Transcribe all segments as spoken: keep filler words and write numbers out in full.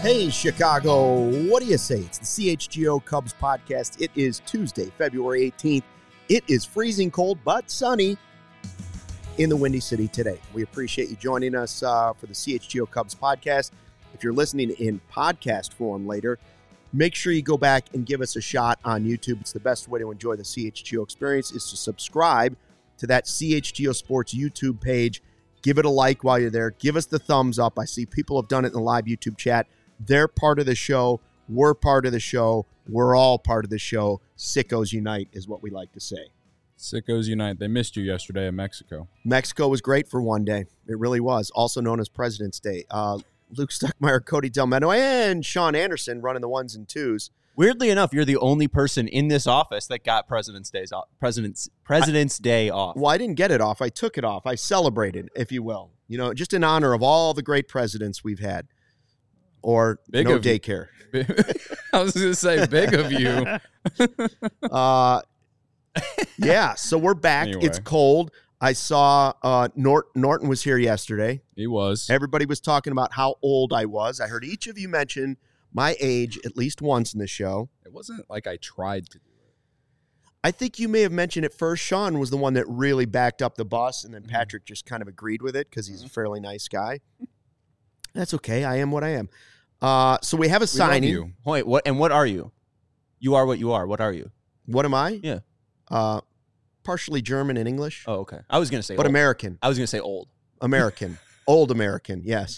Hey, Chicago, what do you say? It's the C H G O Cubs podcast. It is Tuesday, February eighteenth. It is freezing cold but sunny in the Windy City today. We appreciate you joining us uh, for the C H G O Cubs podcast. If you're listening in podcast form later, make sure you go back and give us a shot on YouTube. It's the best way to enjoy the C H G O experience is to subscribe to that C H G O Sports YouTube page. Give it a like while you're there. Give us the thumbs up. I see people have done it in the live YouTube chat. They're part of the show. We're part of the show. We're all part of the show. Sickos unite is what we like to say. Sickos unite. They missed you yesterday in Mexico. Mexico was great for one day. It really was. Also known as President's Day. Uh, Luke Stuckmeyer, Cody Delmeno, and Sean Anderson running the ones and twos. Weirdly enough, you're the only person in this office that got President's Day's off. President's President's I, Day off. Well, I didn't get it off. I took it off. I celebrated, if you will. You know, just in honor of all the great presidents we've had. Or big no of daycare. I was going to say big of you. uh, yeah, so we're back. Anyway. It's cold. I saw uh, Nort- Norton was here yesterday. He was. Everybody was talking about how old I was. I heard each of you mention my age at least once in the show. It wasn't like I tried to do it. I think you may have mentioned it first. Sean was the one that really backed up the bus, and then Patrick just kind of agreed with it because he's a fairly nice guy. That's okay. I am what I am. Uh, so we have a We signing. love you. Wait, what? And what are you? You are what you are. What are you? What am I? Yeah. Uh, partially German and English, Oh, okay. I was gonna say, but old. American. I was gonna say old. American. Old American, yes.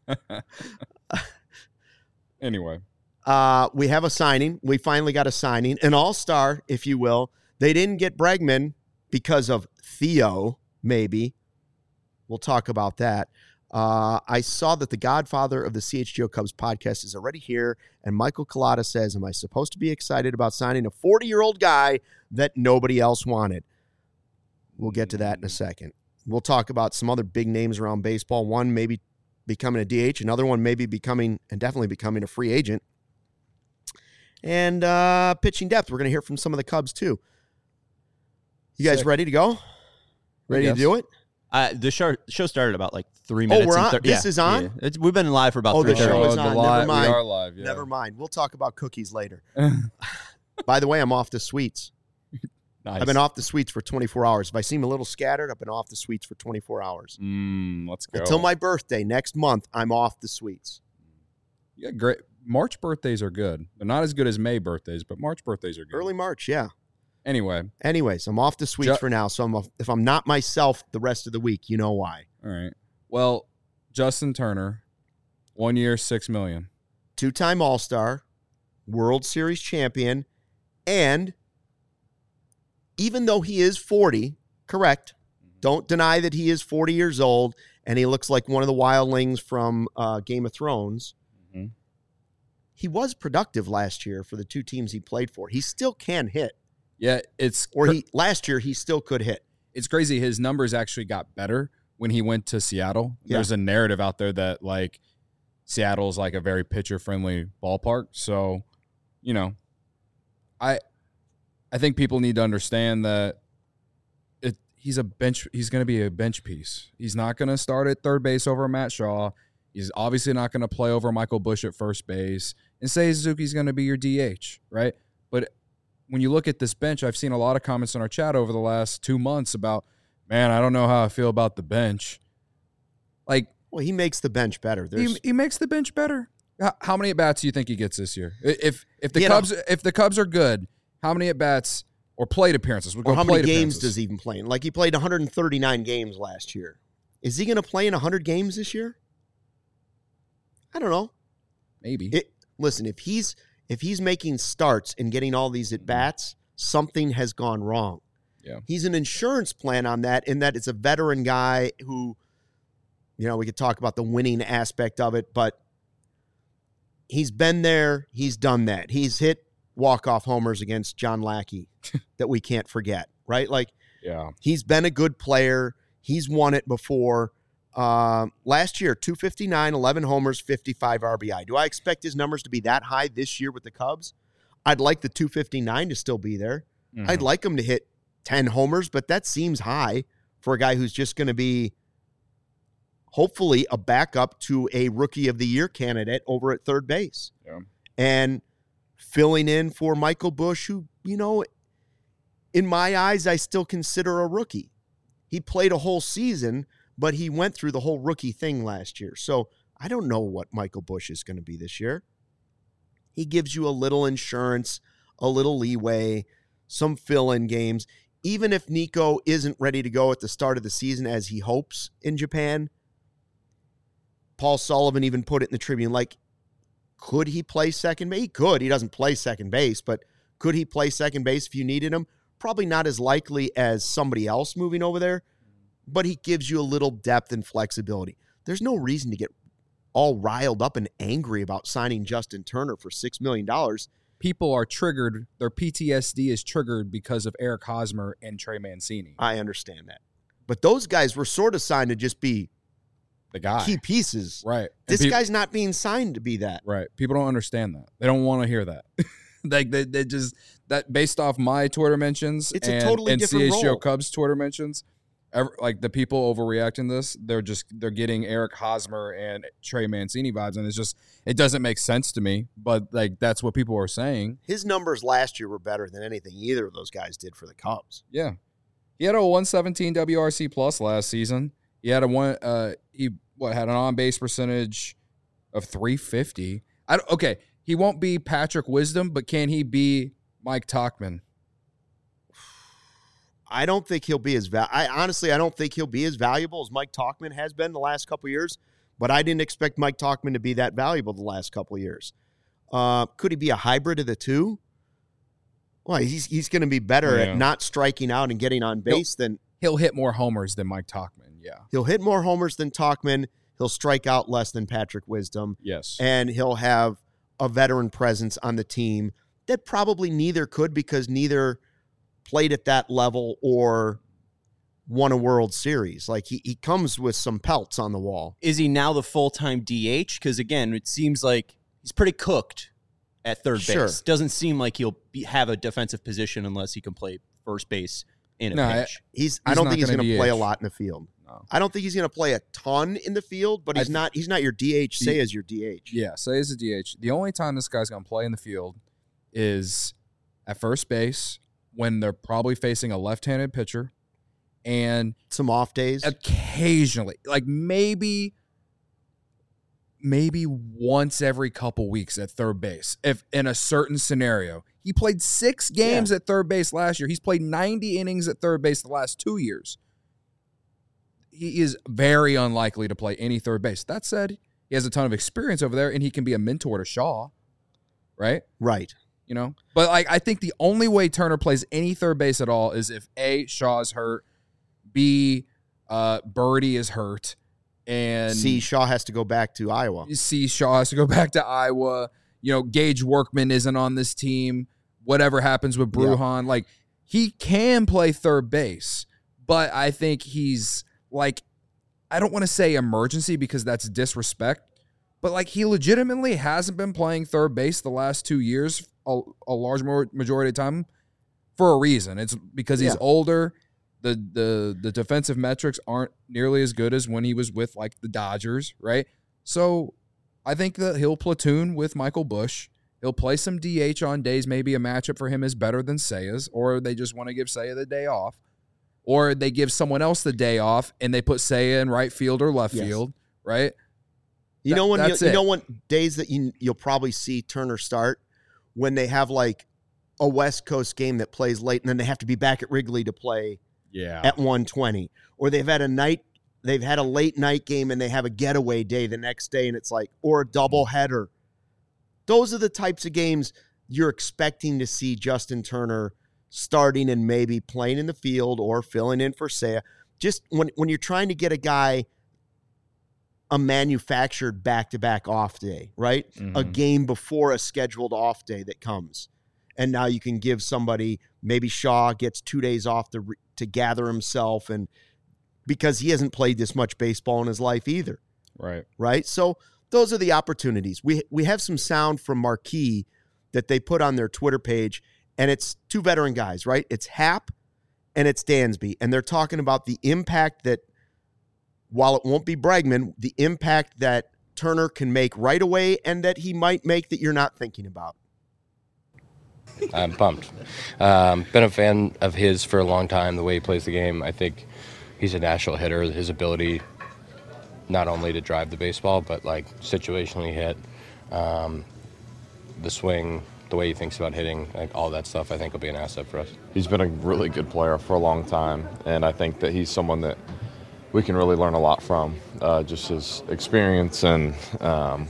Anyway. Uh, we have a signing. We finally got a signing. An all-star, if you will. They didn't get Bregman because of Theo, maybe. We'll talk about that. Uh, I saw that the godfather of the C H G O Cubs podcast is already here, and Michael Collada says, am I supposed to be excited about signing a forty-year-old guy that nobody else wanted? We'll get to that in a second. We'll talk about some other big names around baseball. One maybe becoming a D H, another one maybe becoming, and definitely becoming a free agent. And uh, pitching depth, we're going to hear from some of the Cubs too. You guys Sick. ready to go? Ready to Yes. do it? Uh, the show show started about like three Oh, minutes. we're and on? thir- This yeah, is on? yeah. It's, we've been live for about Oh, three the show minutes. is the on. live- Never mind. We are live, yeah. Never mind. We'll talk about cookies later. By the way, I'm off the sweets. Nice. I've been off the sweets for twenty-four hours. If I seem a little scattered, I've been off the sweets for twenty-four hours. Mm, let's go. Until my birthday next month, I'm off the sweets. Yeah, great. March birthdays are good. They're not as good as May birthdays, but March birthdays are good. Early March, yeah. Anyway. Anyways, I'm off the sweets Ju- for now. So I'm, if I'm not myself the rest of the week, you know why. All right. Well, Justin Turner, one year, six million. Two-time All-Star, World Series champion, and even though he is forty, correct, don't deny that he is forty years old, and he looks like one of the wildlings from uh, Game of Thrones. Mhm. He was productive last year for the two teams he played for. He still can hit. Yeah, it's Or he last year, he still could hit. it's crazy. His numbers actually got better when he went to Seattle. Yeah. There's a narrative out there that like Seattle's like a very pitcher friendly ballpark. So, you know, I I think people need to understand that it he's a bench he's going to be a bench piece. He's not going to start at third base over Matt Shaw. He's obviously not going to play over Michael Busch at first base. And say Suzuki's going to be your D H, right? But when you look at this bench, I've seen a lot of comments in our chat over the last two months about, man, I don't know how I feel about the bench. Like, Well, he makes the bench better. There's he, he makes the bench better. How, how many at bats do you think he gets this year? If if the You know- Cubs if the Cubs are good, how many at bats or plate appearances? We'll or go how many plate games appearances. does he even play in? Like he played one hundred thirty-nine games last year. Is he going to play in one hundred games this year? I don't know. Maybe. It, listen, if he's if he's making starts and getting all these at bats, something has gone wrong. Yeah. He's an insurance plan on that, in that it's a veteran guy who, you know, we could talk about the winning aspect of it, but he's been there, he's done that. He's hit walk-off homers against John Lackey that we can't forget, right? Like, yeah. he's been a good player. He's won it before. Uh, last year, two fifty-nine, eleven homers, fifty-five R B I. Do I expect his numbers to be that high this year with the Cubs? I'd like the two fifty-nine to still be there. Mhm. I'd like him to hit ten homers, but that seems high for a guy who's just going to be hopefully a backup to a Rookie of the Year candidate over at third base. Yeah. And filling in for Michael Busch, who, you know, in my eyes, I still consider a rookie. He played a whole season, but he went through the whole rookie thing last year. So I don't know what Michael Busch is going to be this year. He gives you a little insurance, a little leeway, some fill-in games. Even if Nico isn't ready to go at the start of the season as he hopes in Japan, Paul Sullivan even put it in the Tribune, like, could he play second base? He could. He doesn't play second base, but could he play second base if you needed him? Probably not as likely as somebody else moving over there, but he gives you a little depth and flexibility. There's no reason to get all riled up and angry about signing Justin Turner for six million dollars. People are triggered. Their P T S D is triggered because of Eric Hosmer and Trey Mancini. I understand that. But those guys were sort of signed to just be the guy. Key pieces. Right. This pe- guy's not being signed to be that. Right. People don't understand that. They don't want to hear that. Like they, they just that based off my Twitter mentions it's and, a totally and different C H G O role. Cubs Twitter mentions, ever, like the people overreacting this, they're just they're getting Eric Hosmer and Trey Mancini vibes, and it's just it doesn't make sense to me. But like that's what people are saying. His numbers last year were better than anything either of those guys did for the Cubs. Yeah, he had a one seventeen W R C plus last season. He had a one. Uh, he what had an on base percentage of three fifty. I don't, okay. He won't be Patrick Wisdom, but can he be Mike Tauchman? I don't think he'll be as val- I honestly I don't think he'll be as valuable as Mike Tauchman has been the last couple of years. But I didn't expect Mike Tauchman to be that valuable the last couple of years. Uh, could he be a hybrid of the two? Well, he's he's going to be better Yeah. at not striking out and getting on base He'll- than He'll hit more homers than Mike Tauchman. Yeah. he'll hit more homers than Tauchman. He'll strike out less than Patrick Wisdom. Yes. And he'll have a veteran presence on the team that probably neither could because neither played at that level or won a World Series. Like he, he comes with some pelts on the wall. Is he now the full-time D H? Because, again, it seems like he's pretty cooked at third Sure. base. Doesn't seem like he'll be, have a defensive position unless he can play first base in a No, I- pinch. He's, I He's don't not think he's gonna going to play a D H. lot in the field. No. I don't think he's going to play a ton in the field, but I he's th- not he's not your D H. The- Say as your D H. Yeah, say as a D H. The only time this guy's going to play in the field is at first base when they're probably facing a left-handed pitcher and Some off days. occasionally, like maybe maybe once every couple weeks at third base if in a certain scenario. He played six games at third base last year. He's played ninety innings at third base the last two years. He is very unlikely to play any third base. That said, he has a ton of experience over there, and he can be a mentor to Shaw, right? Right. You know? But like, I think the only way Turner plays any third base at all is if A, Shaw is hurt, B, uh, Birdie is hurt, and See, Shaw has to go back to Iowa. C, Shaw has to go back to Iowa. You know, Gage Workman isn't on this team. Whatever happens with Brujan, like he can play third base, but I think he's like, I don't want to say emergency because that's disrespect, but like he legitimately hasn't been playing third base the last two years, a, a large majority of the time for a reason. It's because he's Yeah. older. The, the, the defensive metrics aren't nearly as good as when he was with like the Dodgers, right? So I think that he'll platoon with Michael Busch. He'll play some D H on days maybe a matchup for him is better than Seiya's, or they just want to give Seiya the day off, or they give someone else the day off and they put Seiya in right field or left Yes. field, right? You That- know when you, that's you it. know what days that you you'll probably see Turner start when they have like a West Coast game that plays late and then they have to be back at Wrigley to play Yeah. at one twenty, or they've had a night they've had a late night game and they have a getaway day the next day and it's like or a double header. Those are the types of games you're expecting to see Justin Turner starting and maybe playing in the field or filling in for Seiya. Just when when you're trying to get a guy a manufactured back-to-back off day, right? A Mhm. game before a scheduled off day that comes. And now you can give somebody, maybe Shaw gets two days off to re- to gather himself, and because he hasn't played this much baseball in his life either, Right. right? So those are the opportunities. We we have some sound from Marquee that they put on their Twitter page, and it's two veteran guys, right? It's Happ and it's Dansby, and they're talking about the impact that while it won't be Bregman, the impact that Turner can make right away and that he might make that you're not thinking about? I'm pumped. Um, been a fan of his for a long time, the way he plays the game. I think he's a natural hitter. His ability not only to drive the baseball, but like situationally hit, um, the swing, the way he thinks about hitting, like all that stuff, I think will be an asset for us. He's been a really good player for a long time, and I think that he's someone that we can really learn a lot from, uh, just his experience, and um,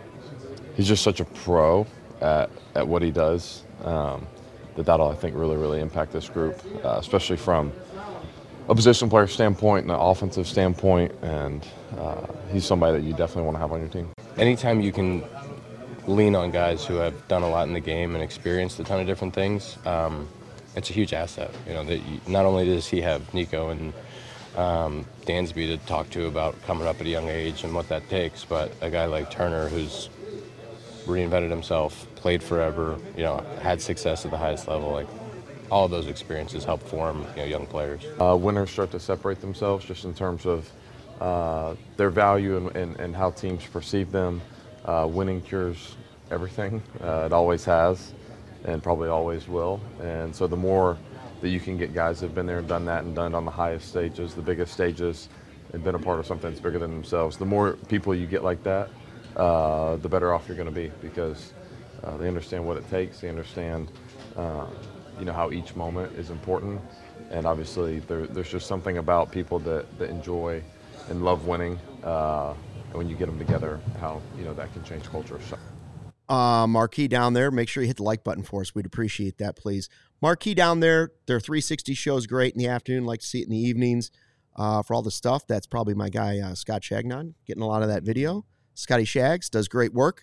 he's just such a pro at, at what he does, um, that that'll, I think, really, really impact this group, uh, especially from a position player standpoint and an offensive standpoint, and uh, he's somebody that you definitely want to have on your team. Anytime you can lean on guys who have done a lot in the game and experienced a ton of different things, um, it's a huge asset. You know, that you, not only does he have Nico and um, Dansby to talk to about coming up at a young age and what that takes, but a guy like Turner who's reinvented himself, played forever, you know, had success at the highest level, like all of those experiences help form, you know, young players. Uh, winners start to separate themselves just in terms of uh, their value and, and, and how teams perceive them. Uh, winning cures everything. Uh, it always has, and probably always will. And so the more that you can get guys that have been there and done that and done it on the highest stages, the biggest stages, and been a part of something that's bigger than themselves, the more people you get like that, uh, the better off you're going to be, because uh, they understand what it takes. They understand, uh, you know, how each moment is important. And obviously, there, there's just something about people that, that enjoy and love winning. Uh, And when you get them together, how, you know, that can change culture. So. Uh, Marquee down there, make sure you hit the like button for us. We'd appreciate that, please. Marquee down there, their three sixty show's great in the afternoon. Like to see it in the evenings. Uh, for all the stuff, that's probably my guy, uh, Scott Shagnon, getting a lot of that video. Scotty Shags does great work.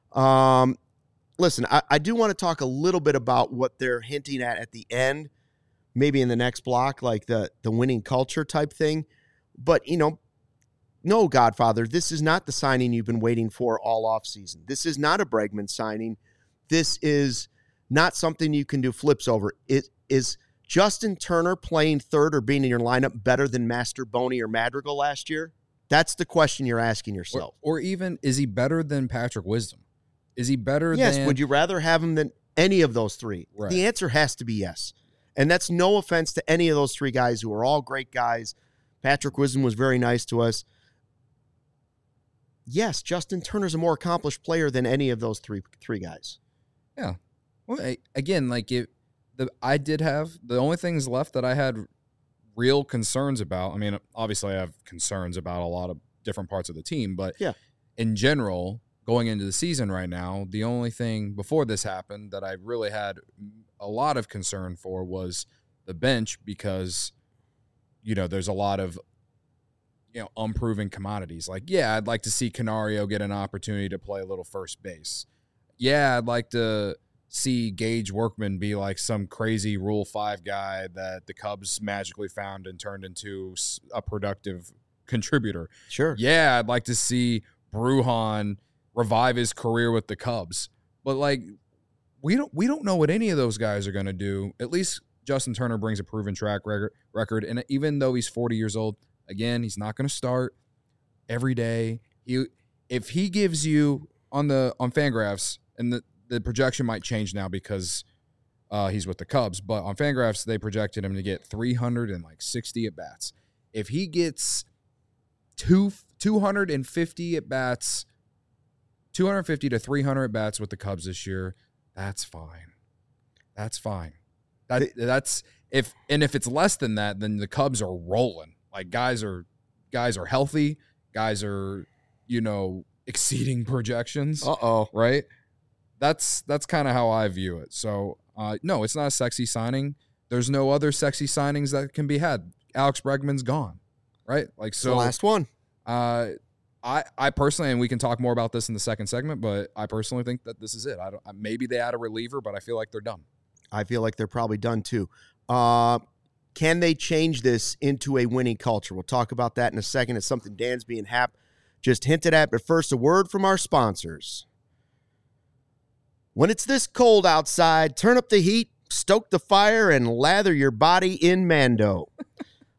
Um, listen, I, I do want to talk a little bit about what they're hinting at at the end, maybe in the next block, like the, the winning culture type thing. But, you know, no, Godfather, this is not the signing you've been waiting for all offseason. This is not a Bregman signing. This is not something you can do flips over. It is Justin Turner playing third or being in your lineup better than Master Boney or Madrigal last year? That's the question you're asking yourself. Or, or even, is he better than Patrick Wisdom? Is he better yes, than... Yes, would you rather have him than any of those three? Right. The answer has to be yes. And that's no offense to any of those three guys who are all great guys. Patrick Wisdom was very nice to us. Yes, Justin Turner's a more accomplished player than any of those three three guys. Yeah. Well, I, again, like it, the I did have the only things left that I had real concerns about. I mean, obviously, I have concerns about a lot of different parts of the team, but yeah, in general, going into the season right now, the only thing before this happened that I really had a lot of concern for was the bench, because you know there's a lot of you know, unproven commodities. Like, yeah, I'd like to see Canario get an opportunity to play a little first base. Yeah, I'd like to see Gage Workman be like some crazy Rule five guy that the Cubs magically found and turned into a productive contributor. Sure. Yeah, I'd like to see Brujan revive his career with the Cubs. But, like, we don't we don't know what any of those guys are going to do. At least Justin Turner brings a proven track record, and even though he's forty years old, again, he's not going to start every day. He, if he gives you on the on Fangraphs, and the, the projection might change now because uh, he's with the Cubs, but on Fangraphs they projected him to get three hundred sixty at bats. If he gets two two hundred fifty at bats, two hundred fifty to three hundred at bats with the Cubs this year, that's fine. That's fine. That that's if and if it's less than that, then the Cubs are rolling. Like guys are guys are healthy, guys are, you know, exceeding projections. Uh-oh. Right? That's that's kind of how I view it. So, uh, no, it's not a sexy signing. There's no other sexy signings that can be had. Alex Bregman's gone. Right? Like so the last one. Uh I I personally, and we can talk more about this in the second segment, but I personally think that this is it. I don't maybe they add a reliever, but I feel like they're done. I feel like they're probably done too. Uh Can they change this into a winning culture? We'll talk about that in a second. It's something Dansby and Hap just hinted at. But first, a word from our sponsors. When it's this cold outside, turn up the heat, stoke the fire, and lather your body in Mando.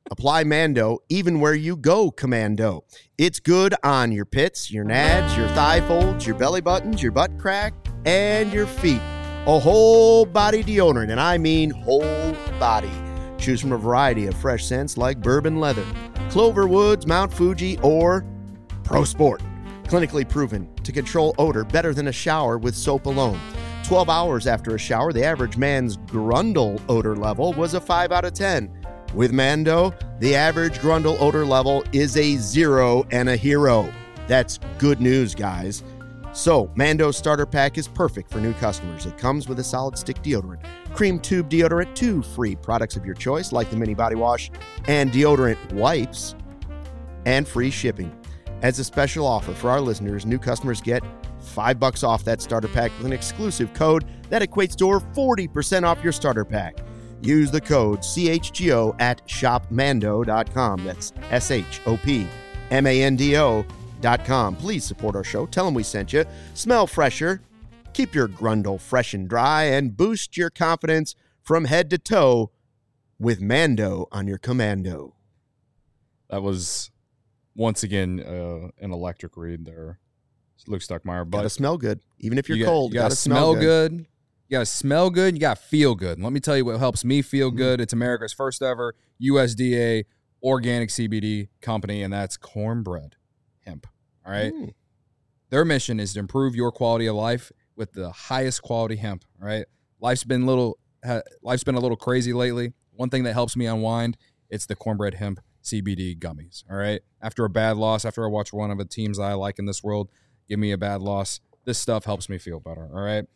Apply Mando even where you go commando. It's good on your pits, your nads, your thigh folds, your belly buttons, your butt crack, and your feet. A whole body deodorant, and I mean whole body. Choose from a variety of fresh scents like bourbon leather, Clover Woods, Mount Fuji, or Pro Sport. Clinically proven to control odor better than a shower with soap alone. twelve hours after a shower, the average man's Grundle odor level was a five out of ten. With Mando, the average Grundle odor level is a zero and a hero. That's good news, guys. So, Mando's starter pack is perfect for new customers. It comes with a solid stick deodorant, cream tube deodorant, two free products of your choice, like the mini body wash and deodorant wipes, and free shipping. As a special offer for our listeners, new customers get five bucks off that starter pack with an exclusive code that equates to over forty percent off your starter pack. Use the code C H G O at shop mando dot com. That's S H O P M A N D O dot com. Please support our show. Tell them we sent you. Smell fresher. Keep your Grundle fresh and dry, and boost your confidence from head to toe with Mando on your commando. That was, once again, uh, an electric read there, Luke Stuckmeyer. But gotta smell good. Even if you're you cold, got, you gotta, gotta smell, smell good. good. You gotta smell good. You gotta feel good. And let me tell you what helps me feel Mm. good. It's America's first ever U S D A organic C B D company, and that's Cornbread Hemp. All right. Mm. Their mission is to improve your quality of life with the highest quality hemp. All right. Life's been little. Ha, life's been a little crazy lately. One thing that helps me unwind, it's the Cornbread Hemp C B D gummies. All right. After a bad loss, after I watch one of the teams I like in this world give me a bad loss, this stuff helps me feel better. All right.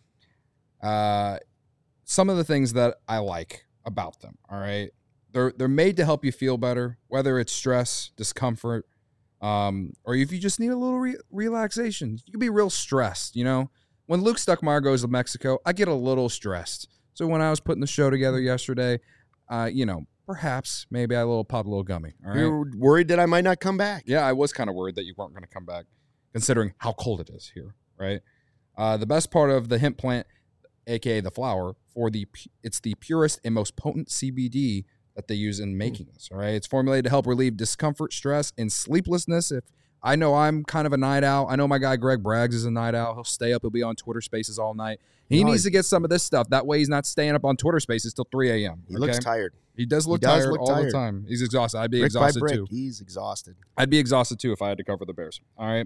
Uh, some of the things that I like about them. All right. They're they're made to help you feel better, whether it's stress, discomfort, um, or if you just need a little re- relaxation. You can be real stressed, you know. When Luke Stuckmeyer goes to Mexico, I get a little stressed. So when I was putting the show together yesterday, uh, you know, perhaps maybe I little pop a little gummy. All right. You're worried that I might not come back. Yeah, I was kind of worried that you weren't going to come back, considering how cold it is here. Right. Uh, the best part of the hemp plant, aka the flower, for the it's the purest and most potent C B D that they use in making this. All right, it's formulated to help relieve discomfort, stress, and sleeplessness. If I know I'm kind of a night owl, I know my guy Greg Braggs is a night owl. He'll stay up. He'll be on Twitter Spaces all night. He No, needs he- to get some of this stuff. That way, he's not staying up on Twitter Spaces till three a.m. He okay? looks tired. He does look He does tired look all tired. the time. He's exhausted. I'd be Brick by exhausted brick, too. he's exhausted. I'd be exhausted too if I had to cover the Bears. All right.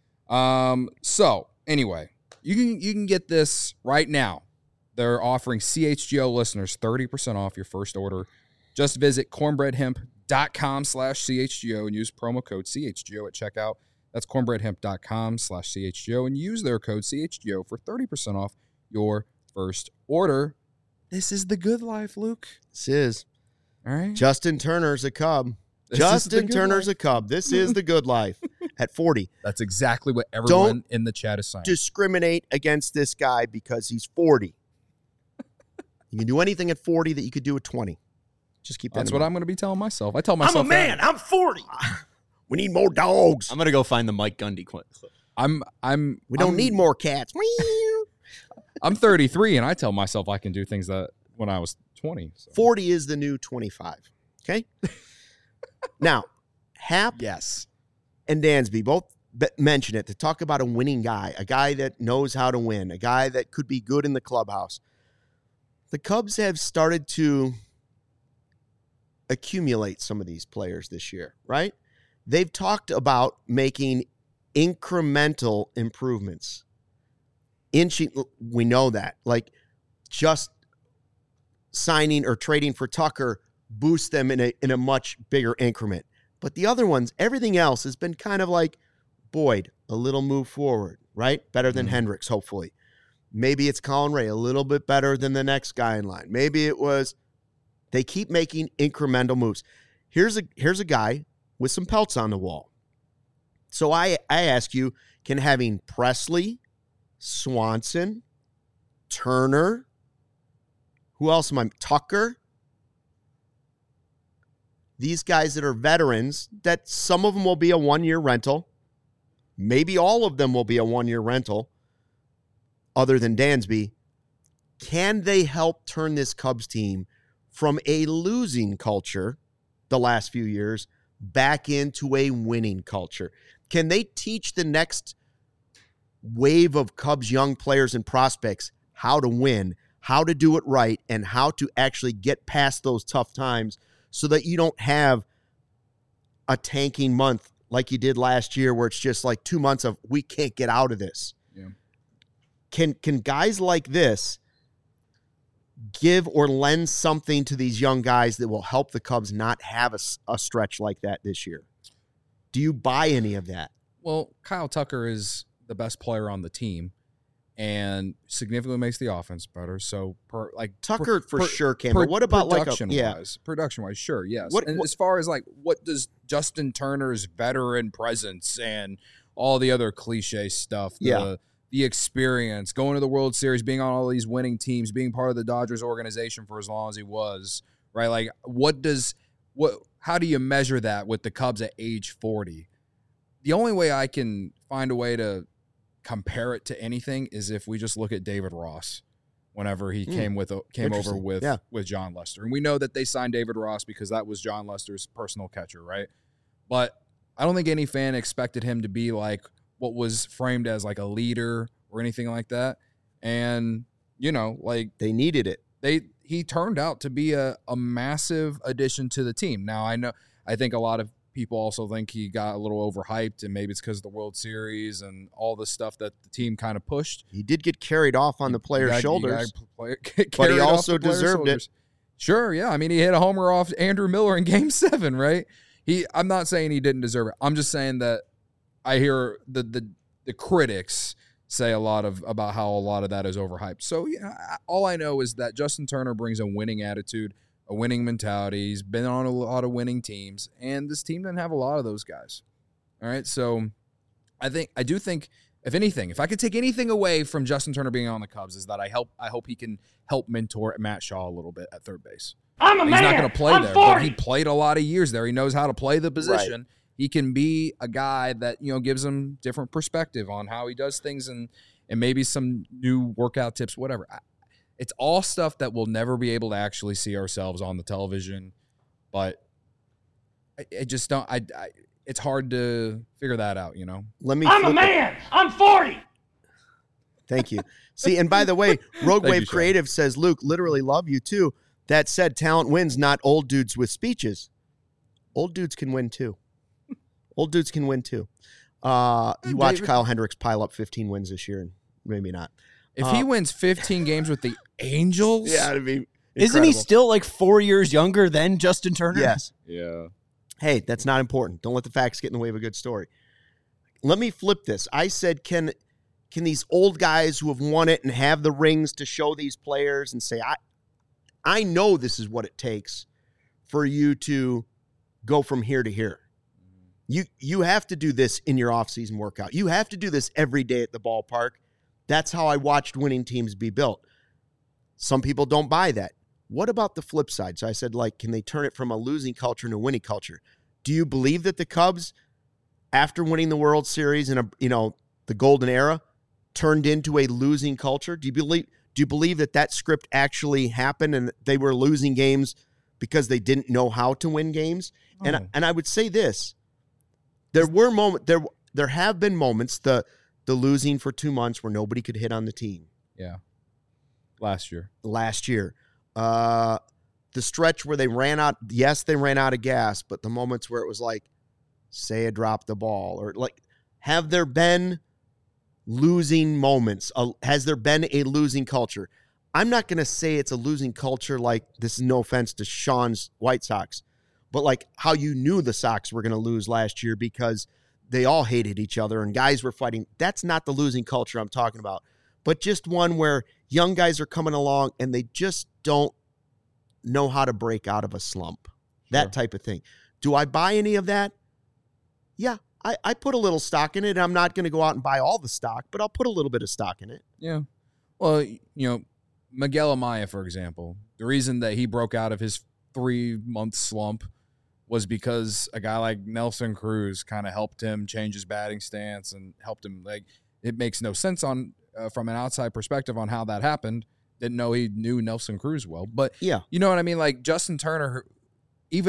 Um. So anyway, you can you can get this right now. They're offering C H G O listeners thirty percent off your first order. Just visit cornbreadhemp.com slash CHGO and use promo code C H G O at checkout. That's cornbreadhemp.com slash CHGO and use their code C H G O for thirty percent off your first order. This is the good life, Luke. This is. All right. Justin Turner's a Cub. This is the Justin good Turner's life. a Cub. This is the good life at forty. That's exactly what everyone Don't in the chat is saying. Discriminate against this guy because he's forty. You can do anything at forty that you could do at twenty. Just keep that That's in what mind. I'm going to be telling myself. I tell myself that. I'm forty. We need more dogs. I'm gonna go find the Mike Gundy clip. I'm I'm We don't I'm, need more cats. I'm thirty-three and I tell myself I can do things that when I was twenty. So. forty is the new twenty-five. Okay? Now, Hap Yes. and Dansby both be- mention it to talk about a winning guy, a guy that knows how to win, a guy that could be good in the clubhouse. The Cubs have started to accumulate some of these players this year, right? They've talked about making incremental improvements. Inching, we know that. Like just signing or trading for Tucker boosts them in a in a much bigger increment. But the other ones, everything else has been kind of like Boyd, a little move forward, right? Better than Mm-hmm. Hendricks, hopefully. Maybe it's Colin Ray, a little bit better than the next guy in line. Maybe it was, they keep making incremental moves. Here's a here's a guy with some pelts on the wall. So I, I ask you, can having Presley, Swanson, Turner, who else am I, Tucker, these guys that are veterans, that some of them will be a one-year rental, maybe all of them will be a one-year rental, other than Dansby, can they help turn this Cubs team from a losing culture the last few years back into a winning culture? Can they teach the next wave of Cubs young players and prospects how to win, how to do it right, and how to actually get past those tough times so that you don't have a tanking month like you did last year where it's just like two months of we can't get out of this? Yeah. Can can guys like this give or lend something to these young guys that will help the Cubs not have a, a stretch like that this year? Do you buy any of that? Well, Kyle Tucker is the best player on the team and significantly makes the offense better. So, per, like Tucker per, for per, sure can. But what about like a production yeah? wise? Production wise, sure, yes. What, and what, as far as like what does Justin Turner's veteran presence and all the other cliche stuff, the, yeah. the experience, going to the World Series, being on all these winning teams, being part of the Dodgers organization for as long as he was, right? Like, what does what? How do you measure that with the Cubs at age forty? The only way I can find a way to compare it to anything is if we just look at David Ross whenever he mm. came with came over with yeah. with John Lester. And we know that they signed David Ross because that was John Lester's personal catcher, right? But I don't think any fan expected him to be like what was framed as like a leader or anything like that. And, you know, like they needed it. They he turned out to be a, a massive addition to the team. Now, I know I think a lot of people also think he got a little overhyped, and maybe it's because of the World Series and all the stuff that the team kind of pushed. He did get carried off on the player's got, shoulders, play, but he also deserved it. Sure, yeah. I mean, he hit a homer off Andrew Miller in Game Seven, right? He. I'm not saying he didn't deserve it. I'm just saying that I hear the the the critics say a lot of about how a lot of that is overhyped. So yeah, all I know is that Justin Turner brings a winning attitude, a winning mentality. He's been on a lot of winning teams, and this team doesn't have a lot of those guys. All right, so I think I do think, if anything, if I could take anything away from Justin Turner being on the Cubs, is that I help. I hope he can help mentor Matt Shaw a little bit at third base. I'm a He's man. not going to play I'm there, forty. but he played a lot of years there. He knows how to play the position. Right. He can be a guy that, you know, gives him different perspective on how he does things, and and maybe some new workout tips, whatever. I, It's all stuff that we'll never be able to actually see ourselves on the television, but I, I just don't. I, I it's hard to figure that out, you know. Let me. I'm a man. It. I'm forty. Thank you. See, and by the way, Rogue Wave Creative says, Luke, literally love you too. That said, talent wins, not old dudes with speeches. Old dudes can win too. Old dudes can win too. Uh, you watch David, Kyle Hendricks pile up fifteen wins this year, and maybe not. If uh, he wins fifteen games with the Angels, yeah, it'd be incredible. Isn't he still like four years younger than Justin Turner? Yes. Yeah. Hey, that's not important. Don't let the facts get in the way of a good story. Let me flip this. I said, can can these old guys who have won it and have the rings to show these players and say, I, I know this is what it takes for you to go from here to here. You you have to do this in your offseason workout. You have to do this every day at the ballpark. That's how I watched winning teams be built. Some people don't buy that. What about the flip side? So I said, like, can they turn it from a losing culture into a winning culture? Do you believe that the Cubs, after winning the World Series in a you know the golden era, turned into a losing culture? Do you believe do you believe that that script actually happened and they were losing games because they didn't know how to win games? Oh. And and I would say this. There were moments there there have been moments the the losing for two months where nobody could hit on the team. Yeah. Last year. Last year. Uh, the stretch where they ran out, yes, they ran out of gas, but the moments where it was like, say, dropped the ball, or like, have there been losing moments? Uh, has there been a losing culture? I'm not going to say it's a losing culture like, this is no offense to Sean's White Sox, but like how you knew the Sox were going to lose last year because they all hated each other and guys were fighting. That's not the losing culture I'm talking about, but just one where young guys are coming along and they just don't know how to break out of a slump, sure. That type of thing. Do I buy any of that? Yeah, I, I put a little stock in it. I'm not going to go out and buy all the stock, but I'll put a little bit of stock in it. Yeah. Well, you know, Miguel Amaya, for example, the reason that he broke out of his three-month slump was because a guy like Nelson Cruz kind of helped him change his batting stance and helped him. Like, it makes no sense on uh, from an outside perspective on how that happened. Didn't know he knew Nelson Cruz well, but yeah, you know what I mean. Like Justin Turner, even at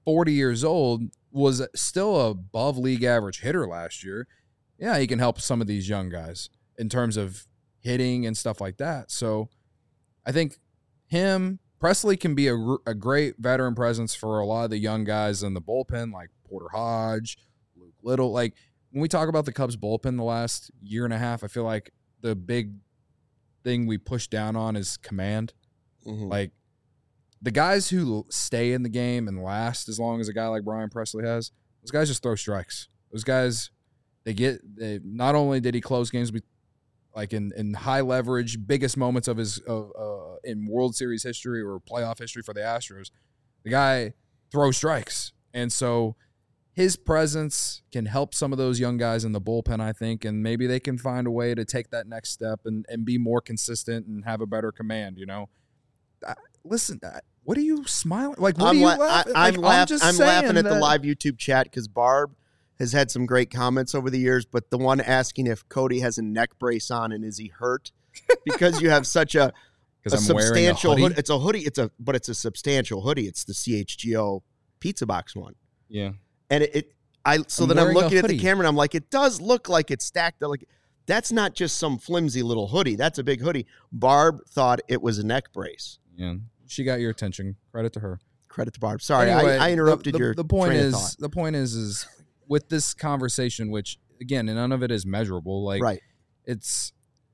forty years old, was still above league average hitter last year. Yeah, he can help some of these young guys in terms of hitting and stuff like that. So I think him, Presley can be a, a great veteran presence for a lot of the young guys in the bullpen, like Porter Hodge, Luke Little. Like, when we talk about the Cubs bullpen the last year and a half, I feel like the big thing we push down on is command. Mm-hmm. Like, the guys who stay in the game and last as long as a guy like Brian Presley has, those guys just throw strikes. Those guys, they get they, not only did he close games like in, in high leverage, biggest moments of his of, uh, in World Series history or playoff history for the Astros, the guy throws strikes. And so his presence can help some of those young guys in the bullpen, I think, and maybe they can find a way to take that next step and, and be more consistent and have a better command, you know. I, listen, I, what are you smiling? Like, what I'm are you la- laughing? I, I'm, like, laugh- I'm, just I'm laughing at that- the live YouTube chat because Barb has had some great comments over the years, but the one asking if Cody has a neck brace on and is he hurt because you have such a, a I'm substantial wearing a hoodie. hood. It's a hoodie. It's a but it's a substantial hoodie. It's the C H G O pizza box one. Yeah, and it. it I so I'm then I'm wearing a looking at the hoodie. camera and I'm like, it does look like it's stacked. Like, that's not just some flimsy little hoodie. That's a big hoodie. Barb thought it was a neck brace. yeah. She got your attention. Credit to her. Credit to Barb. Sorry, Anyway, I, I interrupted the, the, your the point train is of thought. the point is is with this conversation, which again, none of it is measurable. Like, Right. it's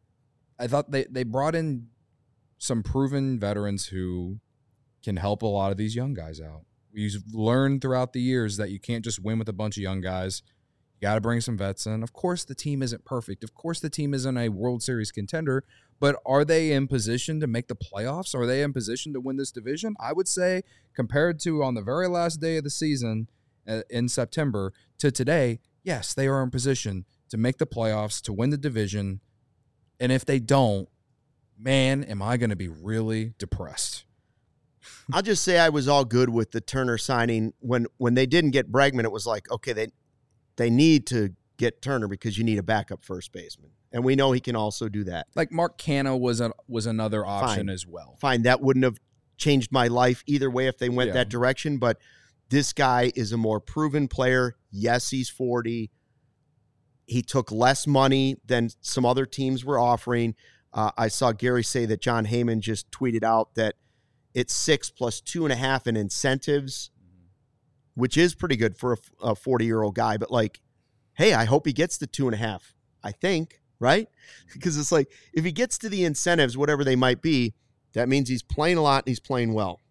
I thought they, they brought in some proven veterans who can help a lot of these young guys out. We've learned throughout the years that you can't just win with a bunch of young guys. You got to bring some vets in. Of course, the team isn't perfect. Of course, the team isn't a World Series contender, but are they in position to make the playoffs? Are they in position to win this division? I would say, compared to on the very last day of the season uh, in September to today, yes, they are in position to make the playoffs, to win the division. And if they don't, man, am I going to be really depressed. I'll just say I was all good with the Turner signing. When when they didn't get Bregman, it was like, okay, they they need to get Turner because you need a backup first baseman. And we know he can also do that. Like Mark Canha was a, was another option Fine. as well. Fine, that wouldn't have changed my life either way if they went Yeah. that direction, but this guy is a more proven player. Yes, he's forty. He took less money than some other teams were offering. Uh, I saw Gary say that John Heyman just tweeted out that it's six plus two and a half in incentives, which is pretty good for a forty-year-old guy. But, like, hey, I hope he gets the two and a half, I think, right? Because it's like, if he gets to the incentives, whatever they might be, that means he's playing a lot and he's playing well.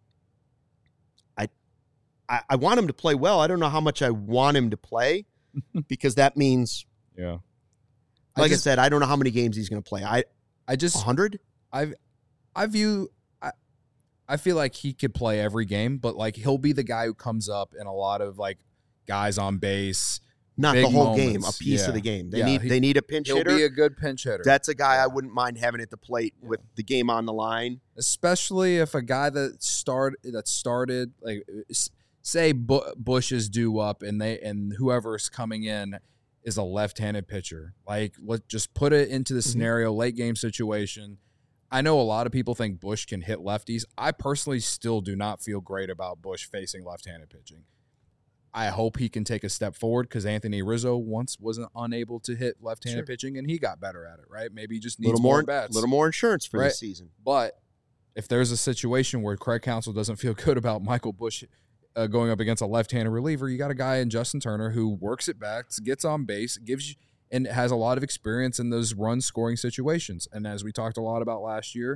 I, I, I want him to play well. I don't know how much I want him to play because that means, Yeah. like I, just- I said, I don't know how many games he's going to play. I I just one hundred? I I view I I feel like he could play every game, but like he'll be the guy who comes up in a lot of like guys on base. Not Big the whole moments. game, a piece Yeah. of the game. They Yeah, need he- they need a pinch He'll hitter. be a good pinch hitter. That's a guy I wouldn't mind having at the plate Yeah. with the game on the line. Especially if a guy that start that started like s- say Bu- Bush is due up and they and whoever's coming in is a left-handed pitcher. Like, let's just put it into the scenario, late game situation. I know a lot of people think Bush can hit lefties. I personally still do not feel great about Bush facing left-handed pitching. I hope he can take a step forward because Anthony Rizzo once wasn't unable to hit left-handed Sure. pitching, and he got better at it, right? Maybe he just A needs little more, more, bats. little more insurance for Right. this season. But if there's a situation where Craig Counsell doesn't feel good about Michael Bush uh, going up against a left-handed reliever, you got a guy in Justin Turner who works it back, gets on base, gives you, and has a lot of experience in those run-scoring situations. And as we talked a lot about last year,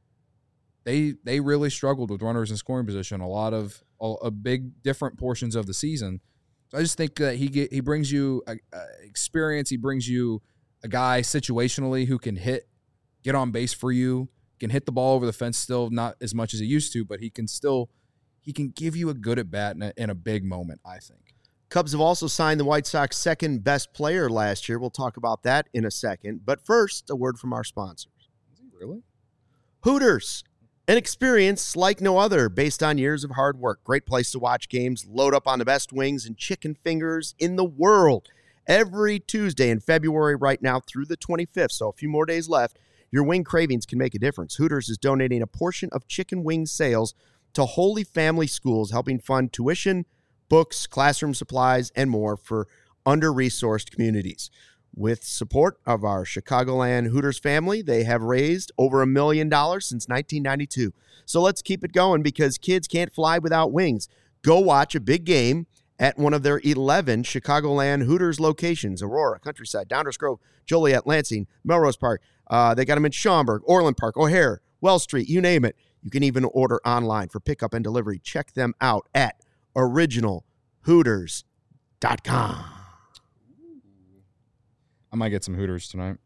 they they really struggled with runners in scoring position a lot of a, a big different portions of the season. So I just think that he get, he brings you a, a experience. He brings you a guy situationally who can hit, get on base for you, can hit the ball over the fence still, not as much as he used to, but he can still he can give you a good at bat in a, in a big moment, I think. Cubs have also signed the White Sox second best player last year. We'll talk about that in a second. But first, a word from our sponsors. Is he really? Hooters, an experience like no other based on years of hard work. Great place to watch games, load up on the best wings and chicken fingers in the world. Every Tuesday in February right now through the twenty-fifth, so a few more days left, your wing cravings can make a difference. Hooters is donating a portion of chicken wing sales to Holy Family Schools, helping fund tuition, books, classroom supplies, and more for under-resourced communities. With support of our Chicagoland Hooters family, they have raised over a million dollars since nineteen ninety-two. So let's keep it going because kids can't fly without wings. Go watch a big game at one of their eleven Chicagoland Hooters locations: Aurora, Countryside, Downers Grove, Joliet, Lansing, Melrose Park. Uh, they got them in Schaumburg, Orland Park, O'Hare, Wells Street, you name it. You can even order online for pickup and delivery. Check them out at original hooters dot com. I might get some Hooters tonight.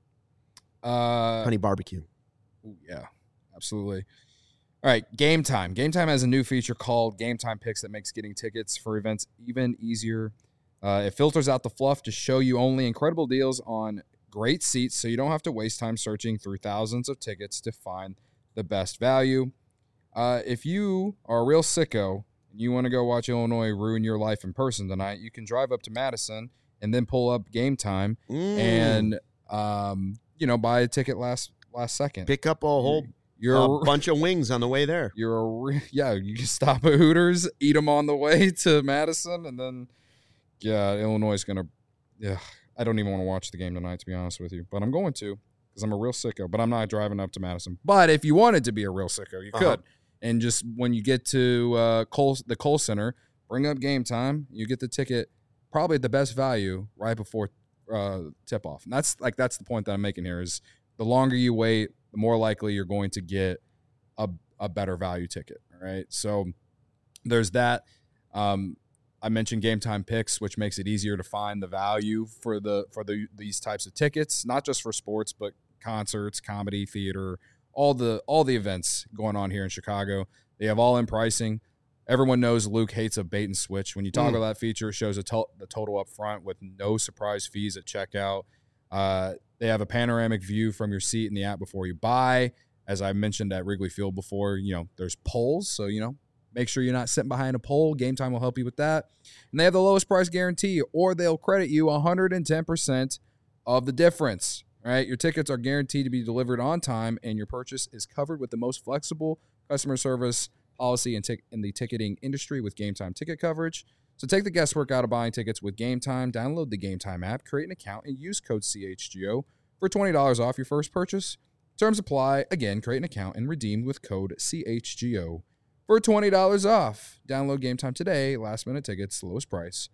Uh, Honey barbecue. Ooh, yeah, absolutely. All right, Game Time. Game Time has a new feature called Game Time Picks that makes getting tickets for events even easier. Uh, it filters out the fluff to show you only incredible deals on great seats, so you don't have to waste time searching through thousands of tickets to find the best value. Uh, if you are a real sicko and you want to go watch Illinois ruin your life in person tonight, you can drive up to Madison and then pull up Game Time mm. and, um, you know, buy a ticket last last second. Pick up a whole you're, a bunch of wings on the way there. You're a re- yeah, you can stop at Hooters, eat them on the way to Madison, and then, yeah, Illinois is going to, yeah, I don't even want to watch the game tonight, to be honest with you. But I'm going to because I'm a real sicko, but I'm not driving up to Madison. But if you wanted to be a real sicko, you uh-huh. could. And just when you get to uh, Cole, the Kohl Center, bring up Game Time, you get the ticket probably at the best value right before uh, tip-off. And that's like that's the point that I'm making here is the longer you wait, the more likely you're going to get a, a better value ticket, all right? So there's that. Um, I mentioned Game Time Picks, which makes it easier to find the value for the for the these types of tickets, not just for sports, but concerts, comedy, theater, all the all the events going on here in Chicago. They have all in pricing. Everyone knows Luke hates a bait and switch. When you toggle mm. that feature, it shows a to- the total up front with no surprise fees at checkout. Uh, they have a panoramic view from your seat in the app before you buy. As I mentioned at Wrigley Field before, you know, there's polls. So, you know, make sure you're not sitting behind a pole. Game Time will help you with that. And they have the lowest price guarantee, or they'll credit you one hundred ten percent of the difference. All right, your tickets are guaranteed to be delivered on time, and your purchase is covered with the most flexible customer service policy in, tic- in the ticketing industry with Game Time ticket coverage. So take the guesswork out of buying tickets with Game Time. Download the Game Time app, create an account, and use code C H G O for twenty dollars off your first purchase. Terms apply. Again, create an account and redeem with code C H G O for twenty dollars off. Download Game Time today. Last minute tickets, lowest price.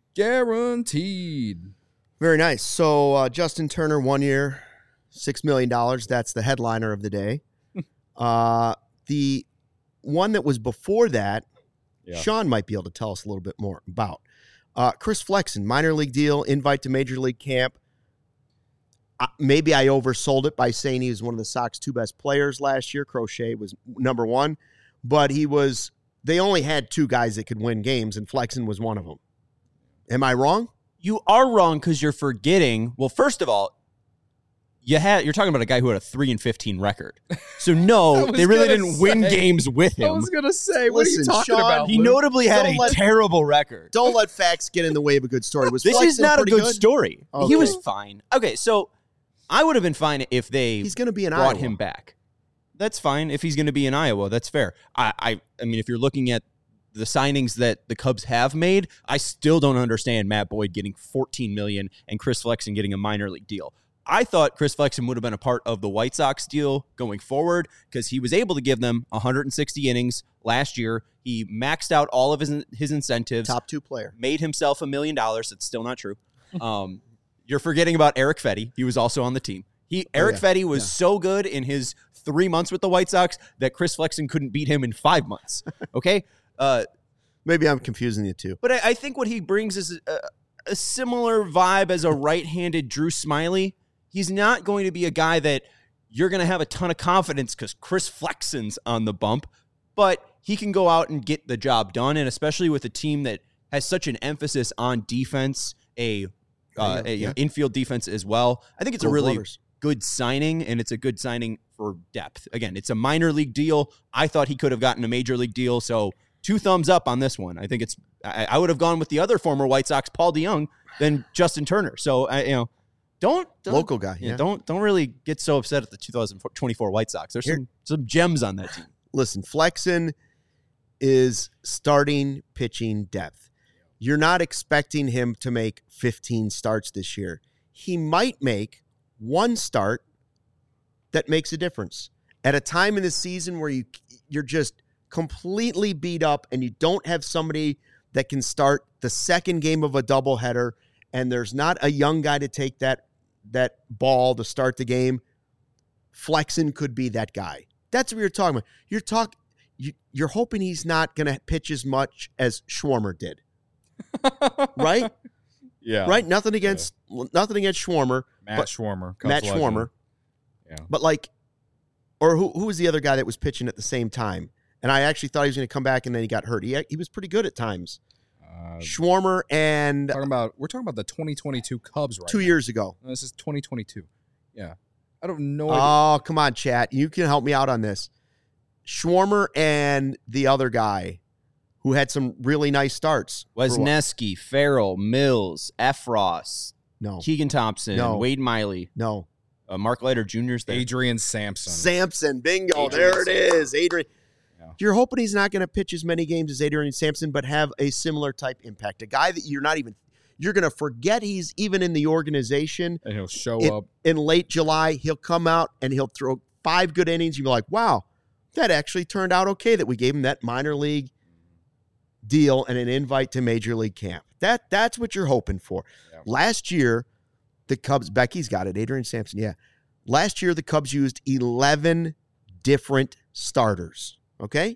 Guaranteed. Very nice. So uh, Justin Turner, one year, six million dollars. That's the headliner of the day. uh, the one that was before that, yeah. Sean might be able to tell us a little bit more about. Uh, Chris Flexen, minor league deal, invite to major league camp. Uh, maybe I oversold it by saying he was one of the Sox two best players last year. Crochet was number one, but he was. They only had two guys that could win games, and Flexen was one of them. Am I wrong? You are wrong because you're forgetting. Well, first of all, you had you're talking about a guy who had a three and fifteen record. So no, they really didn't say, win games with him. I was gonna say, what Listen, are you talking Sean, about? He Luke? notably had Don't a let, terrible record. Don't let facts get in the way of a good story. Was this Flexen is not a good, good story. Okay. He was fine. Okay, so I would have been fine if they he's going to be in brought Iowa. him back. That's fine if he's going to be in Iowa. That's fair. I, I, I mean, if you're looking at the signings that the Cubs have made, I still don't understand Matt Boyd getting fourteen million dollars and Chris Flexen getting a minor league deal. I thought Chris Flexen would have been a part of the White Sox deal going forward because he was able to give them one hundred sixty innings last year. He maxed out all of his his incentives. Top two player. Made himself a million dollars. That's still not true. Um, you're forgetting about Eric Fetty. He was also on the team. He Eric oh, yeah. Fetty was yeah. so good in his three months with the White Sox that Chris Flexen couldn't beat him in five months. Okay? Uh, Maybe I'm confusing you two. But I, I think what he brings is a, a similar vibe as a right-handed Drew Smyly. He's not going to be a guy that you're going to have a ton of confidence because Chris Flexen's on the bump, but he can go out and get the job done, and especially with a team that has such an emphasis on defense, a, uh, a yeah. infield defense as well. I think it's Gold a really Waters. good signing, and it's a good signing for depth. Again, it's a minor league deal. I thought he could have gotten a major league deal, so two thumbs up on this one. I think it's I, I would have gone with the other former White Sox, Paul DeJong, than Justin Turner. So, I, you know, Don't, don't local guy. Yeah, yeah. Don't don't really get so upset at the two thousand twenty-four White Sox. There's Here, some some gems on that team. Listen, Flexen, is starting pitching depth. You're not expecting him to make fifteen starts this year. He might make one start that makes a difference at a time in the season where you you're just completely beat up and you don't have somebody that can start the second game of a doubleheader, and there's not a young guy to take that that ball to start the game. Flexen could be that guy. That's what you're talking about. You're talk you, you're hoping he's not going to pitch as much as Schwarmer did. Right? Yeah. Right? Nothing against yeah. nothing against Schwarmer. Matt but, Schwarmer. Matt legend. Schwarmer. Yeah. But like, or who who was the other guy that was pitching at the same time? And I actually thought he was going to come back, and then he got hurt. He he was pretty good at times. Uh, Schwarmer and talking about we're talking about the twenty twenty-two Cubs right two now. years ago. No, this is twenty twenty-two. Yeah, I don't know. Oh, come on, chat. You can help me out on this. Schwarmer and the other guy who had some really nice starts. Wesneski, Farrell, Mills, Efros, no, Keegan Thompson, no. Wade Miley, no, uh, Mark Leiter Junior's there. Adrian Sampson. Sampson, bingo. Adrian there Sampson. it is, Adrian. Yeah. You're hoping he's not going to pitch as many games as Adrian Sampson, but have a similar type impact. A guy that you're not even, you're going to forget he's even in the organization. And he'll show in, up. In late July, he'll come out and he'll throw five good innings. You'll be like, wow, that actually turned out okay that we gave him that minor league deal and an invite to Major League camp. That That's what you're hoping for. Yeah. Last year, the Cubs, Becky's got it, Adrian Sampson, yeah. Last year, the Cubs used eleven different starters, okay?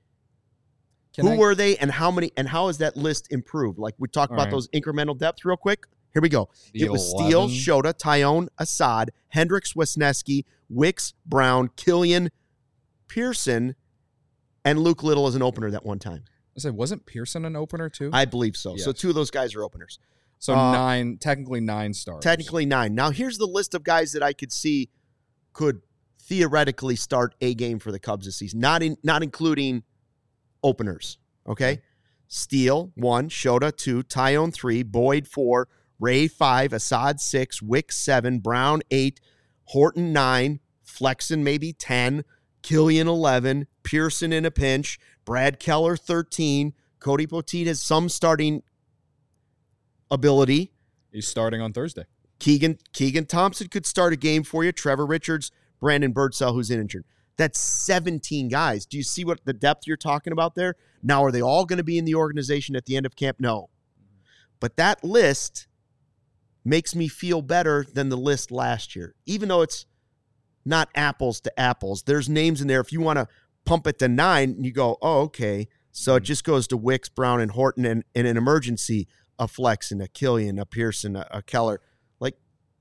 Can Who I, were they and how many, and how has that list improved? Like we talked All about right. those incremental depth real quick. Here we go. The it was Steele, eleven Shota, Tyone, Assad, Hendricks, Wisniewski, Wicks, Brown, Killian, Pearson, and Luke Little as an opener that one time. I said, wasn't Pearson an opener too? I believe so. So Yes. two of those guys are openers. so uh, nine, technically nine stars. Technically nine. Now here's the list of guys that I could see could theoretically start a game for the Cubs this season, not in not including openers. Okay, Steele one, Shota two, Tyone three, Boyd four, Ray five, Assad six, Wick seven, Brown eight, Horton nine, Flexen maybe ten, Killian eleven, Pearson in a pinch, Brad Keller thirteen, Cody Poteet has some starting ability. He's starting on Thursday. Keegan Keegan Thompson could start a game for you. Trevor Richards, Brandon Birdsell, who's injured. That's seventeen guys. Do you see what the depth you're talking about there? Now, are they all going to be in the organization at the end of camp? No. But that list makes me feel better than the list last year, even though it's not apples to apples. There's names in there. If you want to pump it to nine, you go, oh, okay. So it just goes to Wicks, Brown, and Horton, and in an emergency, a Flexen, a Killian, a Pearson, a, a Keller. Like,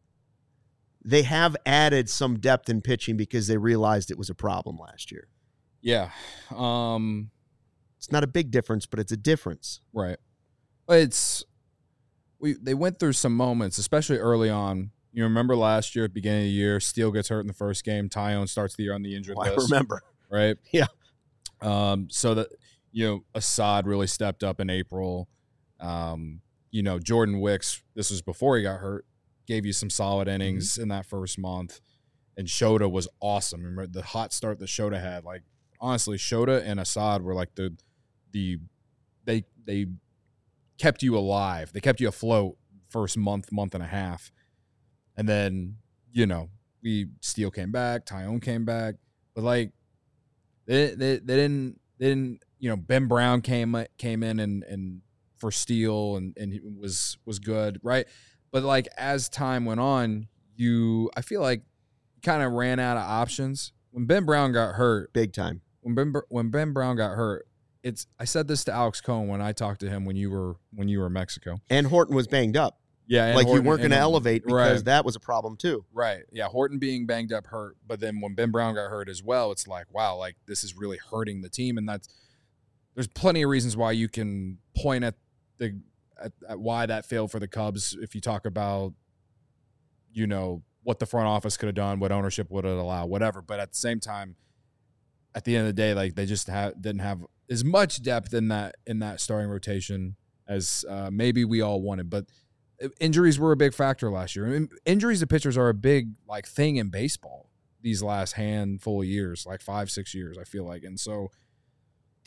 they have added some depth in pitching because they realized it was a problem last year. Yeah. Um, It's not a big difference, but it's a difference. right. It's we they went through some moments, especially early on. You remember last year at the beginning of the year, Steele gets hurt in the first game. Tyone starts the year on the injured Oh, I list. remember. Right? Yeah. Um, so that, you know, Assad really stepped up in April. Um, you know, Jordan Wicks, this was before he got hurt, gave you some solid innings mm-hmm. in that first month. And Shota was awesome. Remember the hot start that Shota had? Like, honestly, Shota and Assad were like the the they they kept you alive. They kept you afloat first month, month and a half. And then, you know, we Steele came back, Tyone came back. But like they they, they didn't they didn't you know, Ben Brown came came in and and for Steele and and he was was good, right? But like as time went on, you I feel like kind of ran out of options. When Ben Brown got hurt, Big time. when Ben when Ben Brown got hurt, it's I said this to Alex Cohen when I talked to him when you were when you were in Mexico. And Horton was banged up. Yeah, and Like Horton- you weren't going to and- elevate because right. that was a problem too. Right. Yeah, Horton being banged up hurt, but then when Ben Brown got hurt as well, it's like, wow, like this is really hurting the team, and that's there's plenty of reasons why you can point at the at, at why that failed for the Cubs if you talk about, you know, what the front office could have done, what ownership would have allowed, whatever. But at the same time, at the end of the day, like they just ha- didn't have as much depth in that in that starting rotation as uh, maybe we all wanted. But injuries were a big factor last year. I mean, injuries to pitchers are a big like thing in baseball these last handful of years, like five, six years, I feel like. And so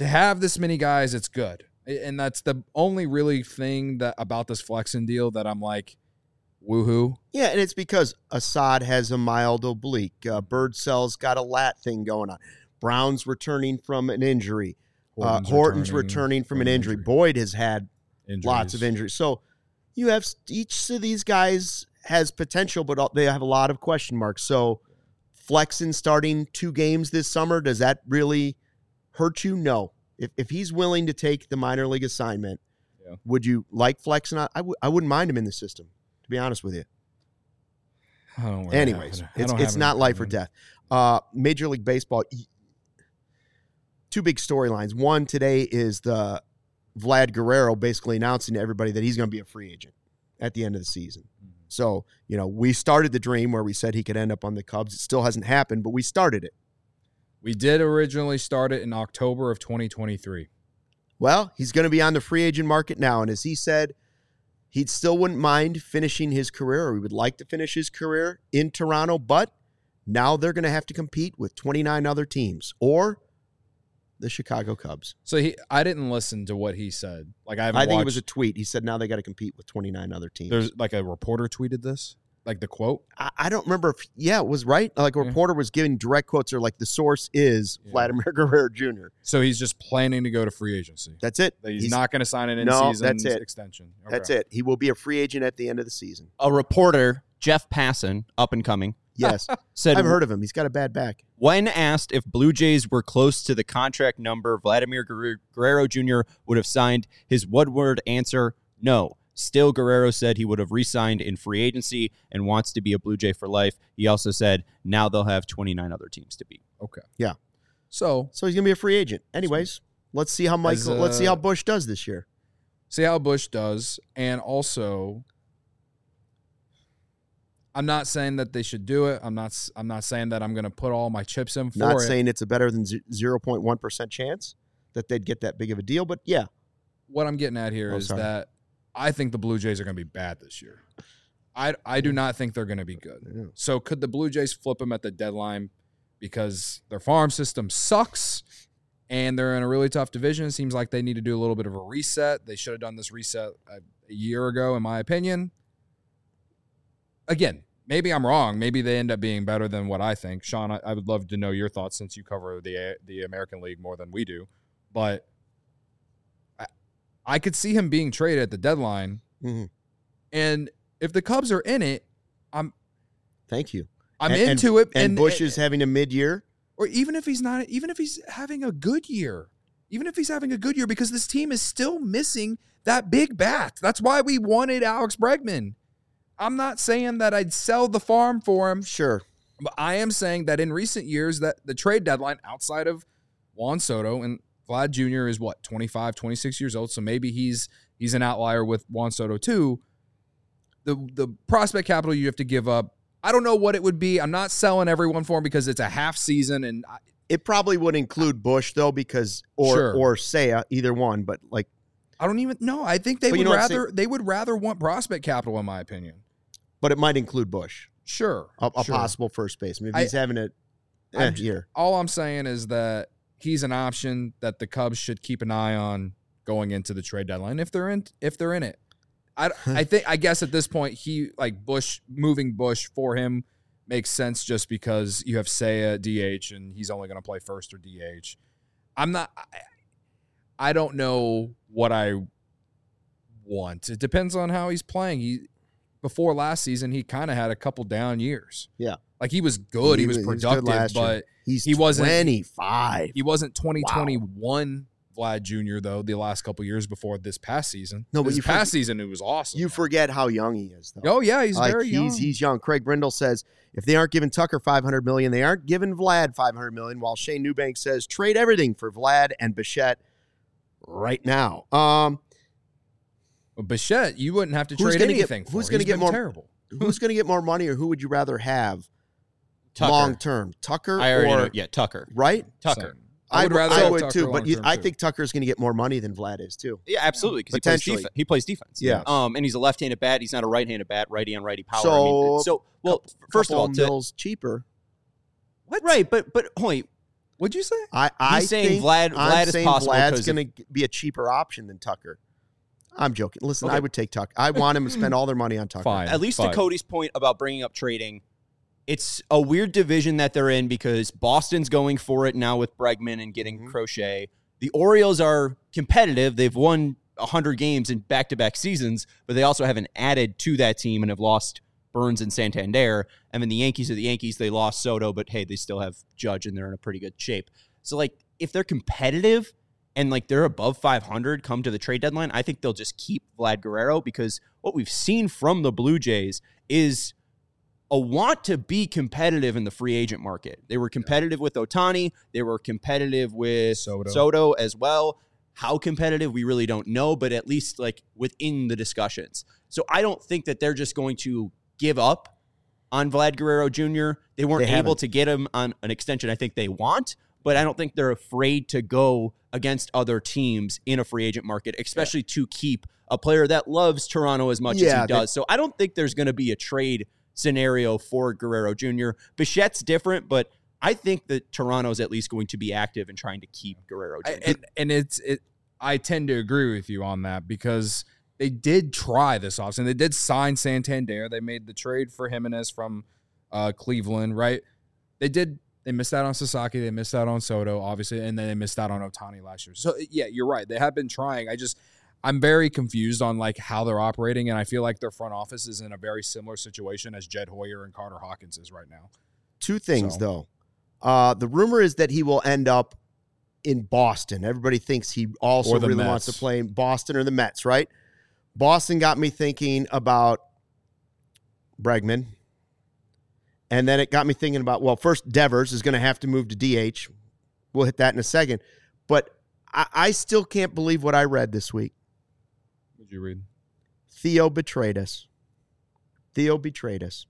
to have this many guys, it's good. And that's the only really thing that about this Flexen deal that I'm like, woohoo. Yeah, and it's because Assad has a mild oblique. Uh, Birdsell's got a lat thing going on. Brown's returning from an injury. Horton's, uh, Horton's returning, returning from, from an injury. injury. Boyd has had Injuries. lots of injuries. So you have each of these guys has potential, but they have a lot of question marks. So Flexen starting two games this summer, does that really hurt you? No. If if he's willing to take the minor league assignment, yeah. would you like Flexen? I, w- I wouldn't mind him in the system, to be honest with you. I don't really Anyways, have, it's, don't it's not life or death. Uh, Major League Baseball, two big storylines. One today is the Vlad Guerrero basically announcing to everybody that he's going to be a free agent at the end of the season. Mm-hmm. So, you know, we started the dream where we said he could end up on the Cubs. It still hasn't happened, but we started it. We did originally start it in October of twenty twenty-three. Well, he's going to be on the free agent market now, and as he said, he still wouldn't mind finishing his career, or he would like to finish his career in Toronto, but now they're going to have to compete with twenty-nine other teams, or the Chicago Cubs. So he, I didn't listen to what he said. Like I, haven't I think watched, it was a tweet. He said now they got to compete with twenty-nine other teams. There's like a reporter tweeted this, like the quote. I, I don't remember if yeah, it was right. Like a Yeah. reporter was giving direct quotes, or like the source is Yeah. Vladimir Guerrero Junior So he's just planning to go to free agency. That's it. That he's, not going to sign an No, in-season that's it. extension. Okay. That's it. He will be a free agent at the end of the season. A reporter, Jeff Passan, up and coming, Yes, said I've heard of him. He's got a bad back. when asked if Blue Jays were close to the contract number, Vladimir Guerrero Guerrero Junior would have signed. His one-word answer, no. Still, Guerrero said he would have re-signed in free agency and wants to be a Blue Jay for life. He also said now they'll have twenty-nine other teams to beat. Okay. Yeah. So So he's gonna be a free agent. Anyways, let's see how Michael. As, uh, let's see how Bush does this year. see how Bush does, and also, I'm not saying that they should do it. I'm not. I'm not saying that I'm going to put all my chips in for Not it. saying it's a better than zero point one percent chance that they'd get that big of a deal, but yeah. What I'm getting at here Oh, is sorry. that I think the Blue Jays are going to be bad this year. I I do not think they're going to be good. Yeah. So could the Blue Jays flip them at the deadline because their farm system sucks and they're in a really tough division? It seems like they need to do a little bit of a reset. They should have done this reset a, a year ago, in my opinion. Again, maybe I'm wrong. Maybe they end up being better than what I think. Sean, I, I would love to know your thoughts since you cover the the American League more than we do. But I, I could see him being traded at the deadline. Mm-hmm. And if the Cubs are in it, I'm Thank you. I'm And- into it. And, Bush is having a mid-year. or even if he's not, even if he's having a good year, even if he's having a good year, because this team is still missing that big bat. That's why we wanted Alex Bregman. I'm not saying that I'd sell the farm for him, Sure. but I am saying that in recent years that the trade deadline outside of Juan Soto and Vlad Junior is what, twenty-five, twenty-six years old. So maybe he's he's an outlier with Juan Soto too. The the prospect capital you have to give up, I don't know what it would be. I'm not selling everyone for him because it's a half season, and I, It probably would include Bush though, because or Sure. or Seiya, either one. But like, I don't even know. I think they But you would know what, rather they would rather want prospect capital, in my opinion. but it might include Bush, Sure, a, a sure. possible first baseman if I- he's having a I'm eh, j- year. All I'm saying is that he's an option that the Cubs should keep an eye on going into the trade deadline if they're in if they're in it. I, I think I guess at this point he like Bush moving Bush for him makes sense just because you have Seiya at D H and he's only going to play first or D H. I'm not. I, I don't know what I want. It depends on how he's playing. He before last season he kind of had a couple down years. Yeah. Like he was good. He, He was was- he was good productive, last year. but He's he wasn't- twenty-five. he wasn't twenty twenty-one Vlad Junior though. The last couple years before this past season. No, but this you past forget- season it was awesome. You forget how young he is, though. Oh yeah, he's Like, very he's young. he's young. Craig Brindle says if they aren't giving Tucker five hundred million dollars, they aren't giving Vlad five hundred million dollars, while Shane Eubank says trade everything for Vlad and Bichette right now. Um, Well, Bichette, you wouldn't have to Who's trade gonna get- anything for. who's He's gonna get been more- terrible. who's going to get more money, or who would you rather have Tucker. long term? Tucker I already or know. Yeah, Tucker. right? Tucker. I would rather I have would Tucker too, but you, long-term, I too. think Tucker's going to get more money than Vlad is too. Yeah, absolutely. Because he plays Potentially. defense. He plays defense. Yeah. Um, and he's a left-handed bat. He's not a right-handed bat. Righty on righty power. So, I mean, so well, Couple- first of all, couple to, Mills cheaper. right? But but wait, What'd you say? I, I He's saying think Vlad- I'm Vlad is saying possible Vlad's 'cause going to be a cheaper option than Tucker. I'm joking. Listen, Okay. I would take Tucker. I want him to spend all their money on Tucker. Fine. At least fine. to Cody's point about bringing up trading, it's a weird division that they're in because Boston's going for it now with Bregman and getting Mhm. Crochet. The Orioles are competitive. They've won one hundred games in back-to-back seasons, but they also haven't added to that team and have lost Burns and Santander. And then the Yankees are the Yankees. They lost Soto, but hey, they still have Judge and they're in a pretty good shape. So, like, if they're competitive and, like, they're above five hundred come to the trade deadline, I think they'll just keep Vlad Guerrero because what we've seen from the Blue Jays is a want to be competitive in the free agent market. They were competitive with Ohtani. They were competitive with Soto. Soto as well. How competitive, we really don't know, but at least, like, within the discussions. So I don't think that they're just going to give up on Vlad Guerrero Junior They weren't They able haven't. to get him on an extension I think they want, but I don't think they're afraid to go against other teams in a free agent market, especially to keep a player that loves Toronto as much as Yeah, he does. So I don't think there's going to be a trade scenario for Guerrero Junior Bichette's different, but I think that Toronto's at least going to be active in trying to keep Guerrero I, Junior and, and it's it. I tend to agree with you on that because they did try this offseason. They did sign Santander. They made the trade for Jimenez from uh, Cleveland, right? They did. They missed out on Sasaki. They missed out on Soto, obviously, and then they missed out on Ohtani last year. So yeah, you're right. They have been trying. I just I'm very confused on like how they're operating, and I feel like their front office is in a very similar situation as Jed Hoyer and Carter Hawkins is right now. Two things, So- though. Uh, the rumor is that he will end up in Boston. Everybody thinks he also Or the really wants to Mets. play in Boston or the Mets, right? Boston got me thinking about Bregman. And then it got me thinking about, well, first, Devers is going to have to move to D H. We'll hit that in a second. But I, I still can't believe what I read this week. What did you read? Theo betrayed us. Theo betrayed us.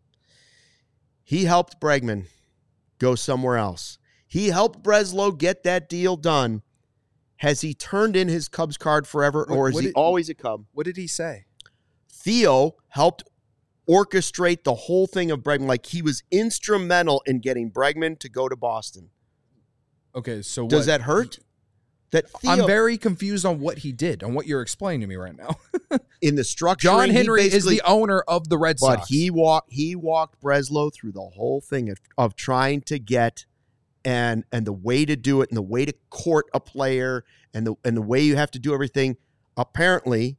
He helped Bregman go somewhere else. He helped Breslow get that deal done. Has he turned in his Cubs card forever, What- or is what he did- always a Cub? What did he say? Theo helped orchestrate the whole thing of Bregman. Like, he was instrumental in getting Bregman to go to Boston. Okay, so Does what- that hurt? That Theo, I'm very confused on what he did, on what you're explaining to me right now. in the structure, John Henry is the owner of the Red But Sox. he walked he walked Breslow through the whole thing of, of trying to get and and the way to do it and the way to court a player and the and the way you have to do everything. Apparently,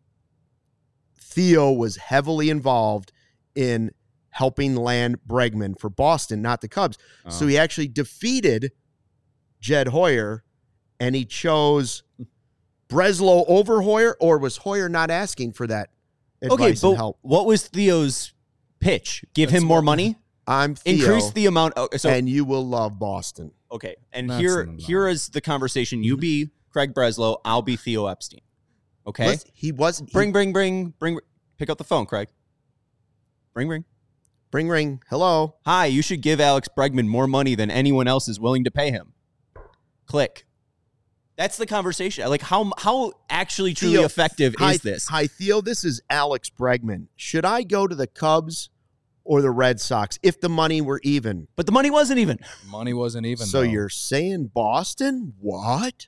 Theo was heavily involved in helping land Bregman for Boston, not the Cubs. So Oh. he actually defeated Jed Hoyer, and he chose Breslow over Hoyer, or was Hoyer not asking for that advice Okay, and but help? what was Theo's pitch? Give That's him more what- money? I'm Theo, Increase the amount. oh, So and you will love Boston. okay, and That's here enough. here is the conversation. You be Craig Breslow. I'll be Theo Epstein. Okay, Listen, he was he- bring, bring, bring, bring. Pick up the phone, Craig. Bring, bring. bring ring. Hello. Hi, you should give Alex Bregman more money than anyone else is willing to pay him. Click. That's the conversation. Like, how how actually truly Theo, effective hi, is this? Hi, Theo. This is Alex Bregman. Should I go to the Cubs or the Red Sox if the money were even? But the money wasn't even. money wasn't even. So though. you're saying Boston? What?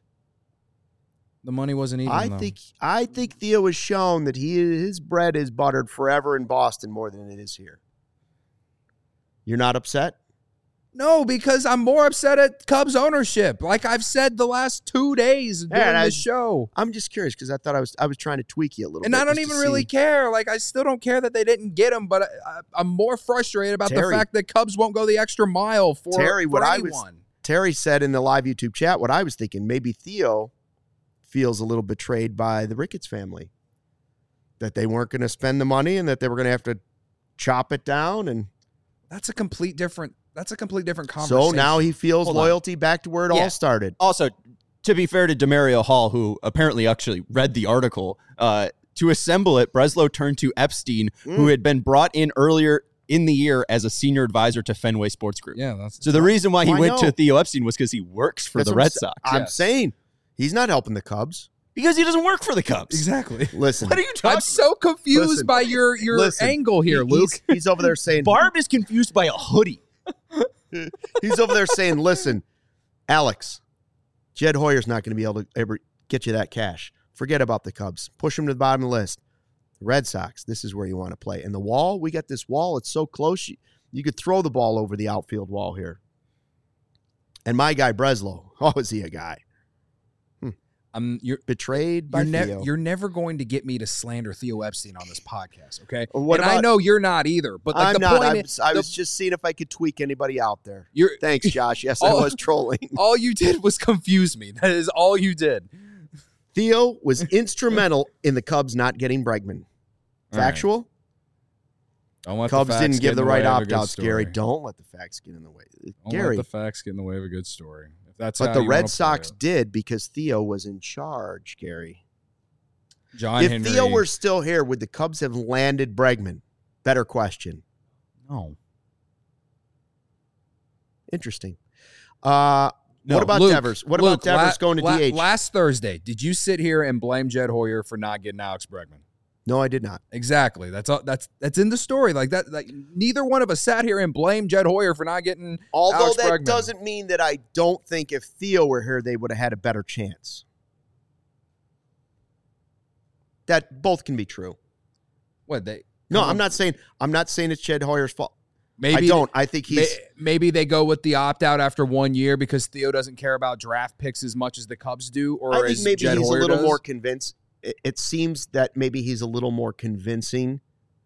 the money wasn't even. I though. think I think Theo has shown that he his bread is buttered forever in Boston more than it is here. You're not upset? No, because I'm more upset at Cubs ownership. Like I've said the last two days during I- the show. I'm just curious because I thought I was I was trying to tweak you a little And bit. I don't just to even really see. care. Like, I still don't care that they didn't get him, but I, I, I'm more frustrated about Terry. the fact that Cubs won't go the extra mile for, Terry, what for I was- anyone. Terry said in the live YouTube chat what I was thinking. Maybe Theo feels a little betrayed by the Ricketts family. That they weren't going to spend the money and that they were going to have to chop it down. And That's a complete different. That's a complete different conversation. so now he feels Hold on. loyalty back to where it Yeah. all started. Also, to be fair to Demario Hall, who apparently actually read the article, uh, to assemble it, Breslow turned to Epstein, who Mm. had been brought in earlier in the year as a senior advisor to Fenway Sports Group. Yeah, that's So the reason why he I went know. to Theo Epstein was because he works for That's the what I'm Red sa- Sox. I'm yes. saying he's not helping the Cubs. Because he doesn't work for the Cubs. exactly. Listen, What are you talking I'm so confused Listen. by your your Listen. angle here, he- Luke. He's, he's over there saying Barb is confused by a hoodie. he's over there saying, listen, Alex, Jed Hoyer's not going to be able to ever get you that cash. Forget about the Cubs. Push them to the bottom of the list. The Red Sox, this is where you want to play. And the wall, we got this wall. It's so close. You, you could throw the ball over the outfield wall here. And my guy, Breslow. Oh, is he a guy? I'm you're betrayed by you're, ne- Theo. you're never going to get me to slander Theo Epstein on this podcast, okay? What and I about- know you're not either. But like I'm the not. point I is, was, I the- was just seeing if I could tweak anybody out there. you're Thanks, Josh. Yes, I all- was trolling. all you did was confuse me. That is all you did. Theo was instrumental in the Cubs not getting Bregman. All right. Factual? Don't let the Cubs facts didn't get give in the way right of a good opt-outs, Gary. story. Don't let the facts get in the way. Don't Gary. let the facts get in the way of a good story. If that's But how the you Red wanna play Sox it. did because Theo was in charge, Gary. John if Henry. Theo were still here, would the Cubs have landed Bregman? Better question. no. Interesting. Uh, No, what about Luke, Devers? What Luke, about Devers la- going to la- D H? Last Thursday, did you sit here and blame Jed Hoyer for not getting Alex Bregman? No, I did not. Exactly. That's all. That's that's in the story. Like that. Like neither one of us sat here and blamed Jed Hoyer for not getting. Although Alex that Bregman. doesn't mean that I don't think if Theo were here, they would have had a better chance. That both can be true. What they? No, come I'm on. not saying I'm not saying it's Jed Hoyer's fault. Maybe I don't. I think may- he's maybe they go with the opt out after one year because Theo doesn't care about draft picks as much as the Cubs do, or I think as maybe Jed he's Hoyer a little does. more convinced. It, it seems that maybe he's a little more convincing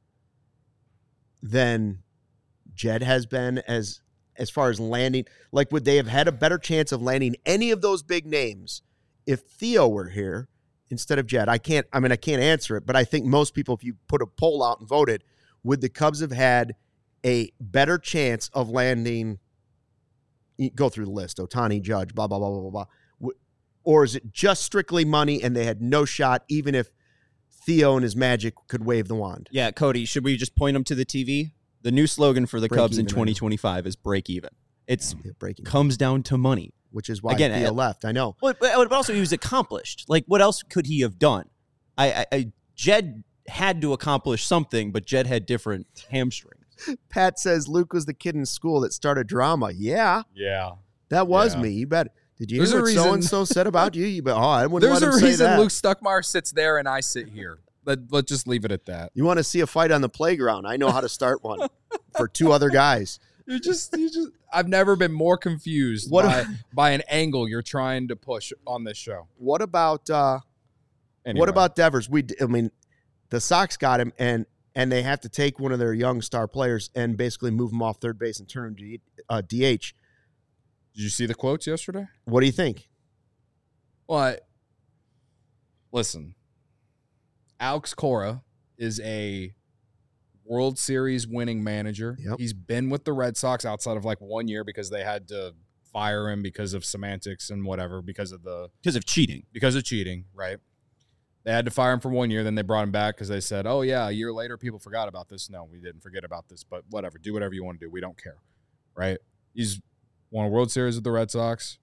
than Jed has been as as far as landing. Like, would they have had a better chance of landing any of those big names if Theo were here instead of Jed? I can't. I mean, I can't answer it, but I think most people, if you put a poll out and voted, would the Cubs have had a better chance of landing? Go through the list: Ohtani, Judge, blah blah blah blah blah. blah. Or is it just strictly money and they had no shot, even if Theo and his magic could wave the wand? Yeah, Cody, should we just point them to the T V? The new slogan for the Break Cubs in even, I know. twenty twenty-five is break even. It's Yeah, breaking, comes down to money. which is why Again, Theo uh, left. I know. But, but also he was accomplished. Like, what else could he have done? I, I, I Jed had to accomplish something, but Jed had different hamstrings. Pat says Luke was the kid in school that started drama. Yeah, Yeah. that was Yeah. me. You bet. Did you There's hear a what reason- so and so said about you? You bet. Oh, I wouldn't There's let a him say reason that. Luke Stuckmeyer sits there and I sit here. Let, let's just leave it at that. You want to see a fight on the playground? I know how to start one for two other guys. You just, you just. I've never been more confused What by, a- by an angle you're trying to push on this show. What about uh, Anyway. what about Devers? We, I mean, the Sox got him, and and they have to take one of their young star players and basically move him off third base and turn him to uh, D H. Did you see the quotes yesterday? What do you think? Well, I, listen, Alex Cora is a World Series winning manager. Yep. He's been with the Red Sox outside of like one year because they had to fire him because of semantics and whatever, because of the Because of cheating. because of cheating, right? They had to fire him for one year. Then they brought him back because they said, oh, yeah, a year later, people forgot about this. No, we didn't forget about this, but whatever. Do whatever you want to do. We don't care, right? He's won a World Series with the Red Sox.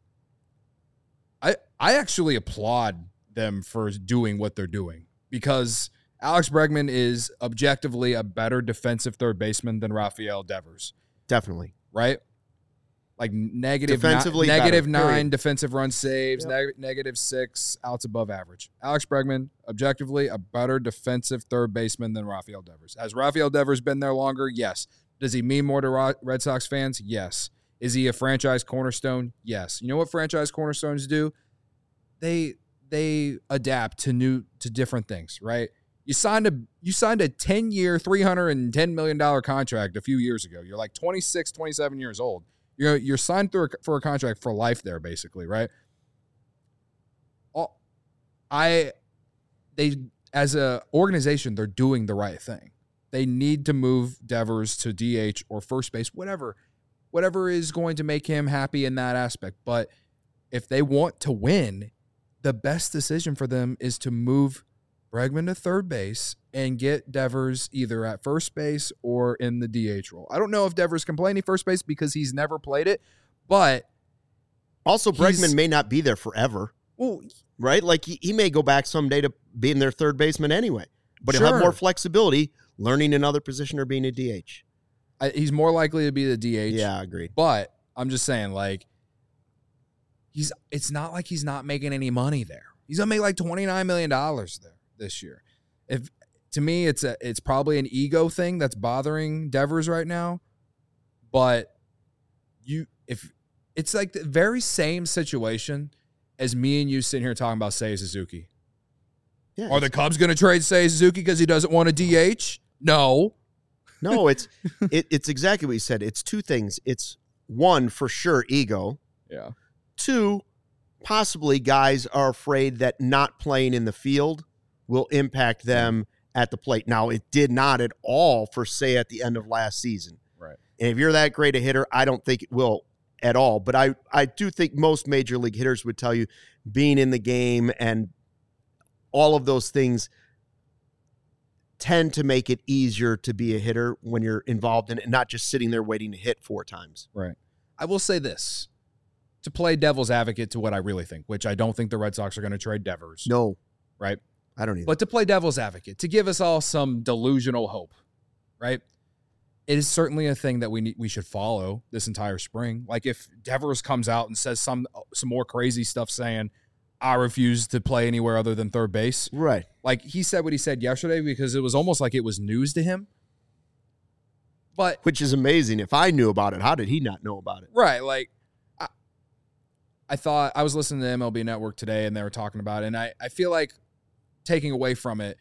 I I actually applaud them for doing what they're doing because Alex Bregman is objectively a better defensive third baseman than Rafael Devers, Definitely. right? Like negative Defensively ni- negative better, nine period. defensive run saves, Yep. neg- negative six outs above average. Alex Bregman, objectively, a better defensive third baseman than Rafael Devers. Has Rafael Devers been there longer? Yes. Does he mean more to Ro- Red Sox fans? Yes. Is he a franchise cornerstone? Yes. You know what franchise cornerstones do? They they adapt to new to different things, right? You signed a you signed a ten-year, three hundred ten million dollars contract a few years ago. You're like twenty-six, twenty-seven years old. You're you're signed through a, for a contract for life there, basically, right? All, I they as a organization, they're doing the right thing. They need to move Devers to D H or first base, whatever, whatever is going to make him happy in that aspect. But if they want to win, the best decision for them is to move Bregman to third base and get Devers either at first base or in the D H role. I don't know if Devers can play any first base because he's never played it, but Also, He's- Bregman may not be there forever, well, right? Like, he, he may go back someday to being their third baseman anyway, but he'll have Sure. more flexibility learning another position or being a D H. I, he's more likely to be the D H. Yeah, agreed. But I'm just saying, like, he's it's not like he's not making any money there. He's gonna make like twenty-nine million dollars there this year. If to me, it's a it's probably an ego thing that's bothering Devers right now. But you if it's like the very same situation as me and you sitting here talking about Seiya Suzuki. Yeah, Are the Cubs going to trade Seiya Suzuki because he doesn't want a D H? No. No, it's it, it's exactly what you said. It's two things. It's one, for sure, ego. Yeah. Two, possibly guys are afraid that not playing in the field will impact them at the plate. Now, it did not at all for Seiya at the end of last season. Right. And if you're that great a hitter, I don't think it will at all. But I, I do think most major league hitters would tell you being in the game and all of those things tend to make it easier to be a hitter when you're involved in it and not just sitting there waiting to hit four times. Right. I will say this, to play devil's advocate to what I really think, which I don't think the Red Sox are going to trade Devers. No. Right? I don't either. But to play devil's advocate, to give us all some delusional hope, right? It is certainly a thing that we need, we should follow this entire spring. Like if Devers comes out and says some some more crazy stuff saying, I refuse to play anywhere other than third base. Right. Like he said what he said yesterday because it was almost like it was news to him. But which is amazing. If I knew about it, how did he not know about it? Right. Like I, I thought I was listening to M L B Network today and they were talking about it. And I, I feel like taking away from it,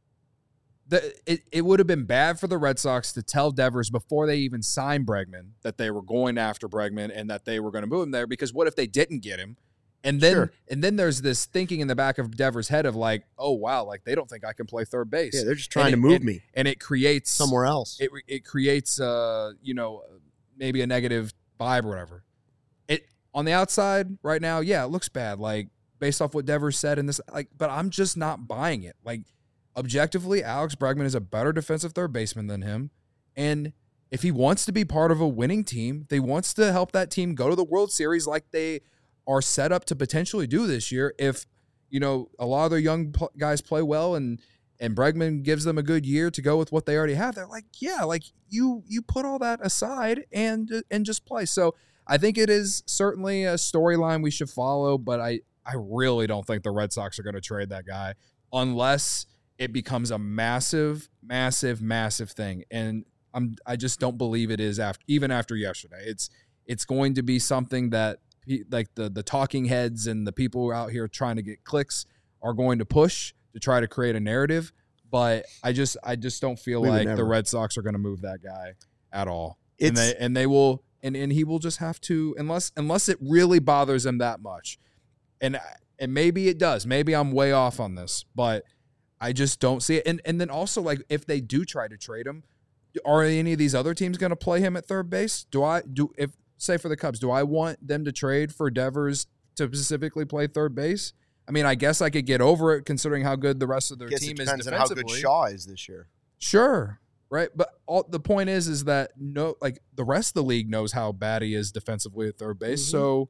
the, it, it would have been bad for the Red Sox to tell Devers before they even signed Bregman that they were going after Bregman and that they were going to move him there. Because what if they didn't get him? And then Sure. and then there's this thinking in the back of Devers' head of like, oh, wow, like they don't think I can play third base. Yeah, they're just trying And to it- move and- me And it creates somewhere else. It it creates uh, you know, maybe a negative vibe or whatever. It on the outside right now, yeah, it looks bad. Like based off what Devers said in this, like, but I'm just not buying it. Like objectively, Alex Bregman is a better defensive third baseman than him. And if he wants to be part of a winning team, they wants to help that team go to the World Series like they are set up to potentially do this year. If, you know, a lot of their young pl- guys play well and and Bregman gives them a good year to go with what they already have, they're like, yeah, like you you put all that aside and and just play. So I think it is certainly a storyline we should follow, but I, I really don't think the Red Sox are going to trade that guy unless it becomes a massive, massive, massive thing. And I'm I just don't believe it is after even after yesterday. It's it's going to be something that like the the talking heads and the people out here trying to get clicks are going to push to try to create a narrative. But I just I just don't feel We would like never. the Red Sox are going to move that guy at all. It's- and they and they will and, and he will just have to unless unless it really bothers him that much. And and maybe it does. Maybe I'm way off on this, but I just don't see it. And and then also like if they do try to trade him, are any of these other teams going to play him at third base? Do I do if say for the Cubs, do I want them to trade for Devers to specifically play third base? I mean, I guess I could get over it considering how good the rest of their I guess team it is depends on how defensively. good Shaw is this year. Sure, right? But all, the point is, is that no, like the rest of the league knows how bad he is defensively at third base. Mhm. So,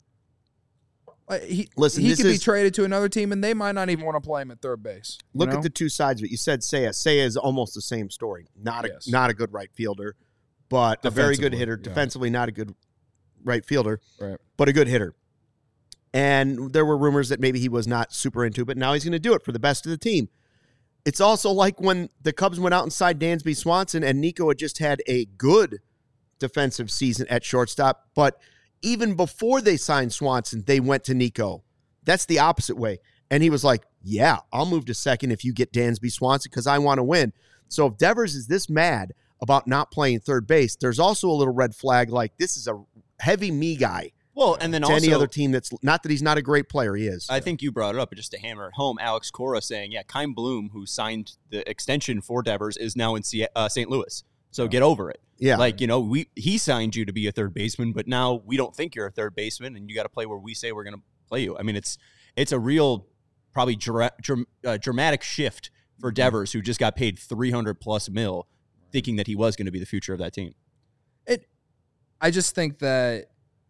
like, he Listen, he this could be is- traded to another team, and they might not even want to play him at third base. you Look know? at the two sides of it. You said Seiya. Seiya is almost the same story. Not a Yes. not a good right fielder, but a very good Defensively, hitter. yeah. Defensively, not a good right fielder, right. but a good hitter. And there were rumors that maybe he was not super into it, but now he's going to do it for the best of the team. It's also like when the Cubs went out and signed Dansby Swanson, and Nico had just had a good defensive season at shortstop. But even before they signed Swanson, they went to Nico. That's the opposite way. And he was like, yeah, I'll move to second if you get Dansby Swanson because I want to win. So if Devers is this mad about not playing third base, there's also a little red flag like this is a heavy me guy. Well, and then to also any other team that's not that he's not a great player, he is. I think you brought it up, but just to hammer it home, Alex Cora saying, yeah, Kyle Bloom, who signed the extension for Devers, is now in C- uh, Saint Louis. So get over it. Yeah. Like, you know, we he signed you to be a third baseman, but now we don't think you're a third baseman, and you got to play where we say we're going to play you. I mean, it's it's a real, probably dra- dra- uh, dramatic shift for Devers, who just got paid three hundred plus mil, thinking that he was going to be the future of that team. It. I just think that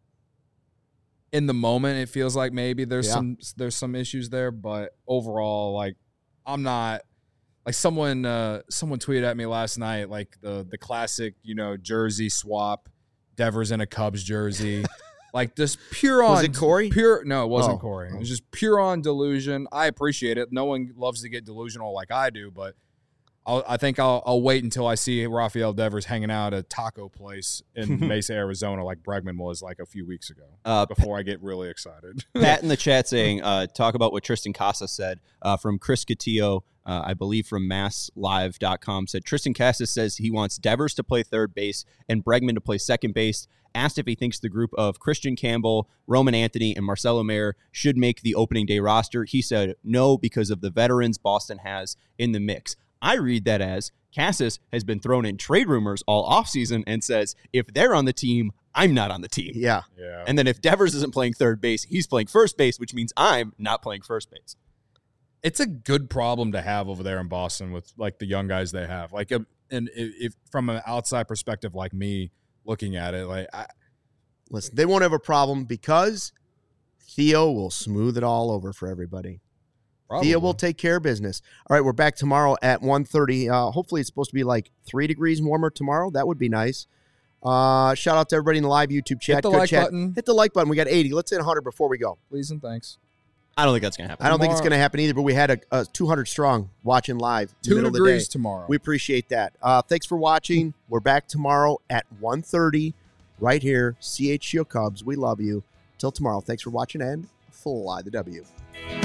in the moment it feels like maybe there's Yeah. some there's some issues there, but overall, like I'm not like someone uh, someone tweeted at me last night like the the classic you know jersey swap, Devers in a Cubs jersey, Like just pure on Was it Corey? Pure no, it wasn't Oh. Corey. It was just pure on delusion. I appreciate it. No one loves to get delusional like I do, but I'll, I think I'll, I'll wait until I see Rafael Devers hanging out at a taco place in Mesa, Arizona, like Bregman was like a few weeks ago. Uh, before I get really excited. Pat in the chat saying, uh, talk about what Tristan Casas said uh, from Chris Catillo, uh, I believe from mass live dot com, said Tristan Casas says he wants Devers to play third base and Bregman to play second base. Asked if he thinks the group of Christian Campbell, Roman Anthony, and Marcelo Mayer should make the opening day roster. He said no because of the veterans Boston has in the mix. I read that as Casas has been thrown in trade rumors all offseason and says, if they're on the team, I'm not on the team. Yeah. Yeah. And then if Devers isn't playing third base, he's playing first base, which means I'm not playing first base. It's a good problem to have over there in Boston with like the young guys they have. Like, and if, if from an outside perspective, like me looking at it, like I, Listen, they won't have a problem because Theo will smooth it all over for everybody. probably. Theo will take care of business. All right, we're back tomorrow at one thirty. Uh, hopefully it's supposed to be like three degrees warmer tomorrow. That would be nice. Uh, shout out to everybody in the live YouTube chat. Hit the Good like chat. button. Hit the like button. We got eighty. Let's hit one hundred before we go. Please and thanks. I don't think that's going to happen. I don't think it's Tomorrow- going to happen either, but we had a, a two hundred strong watching live. in the Two middle of the degrees day. tomorrow. We appreciate that. Uh, thanks for watching. We're back tomorrow at one thirty right here. C H G O Cubs. We love you. Till tomorrow. Thanks for watching and fly the W.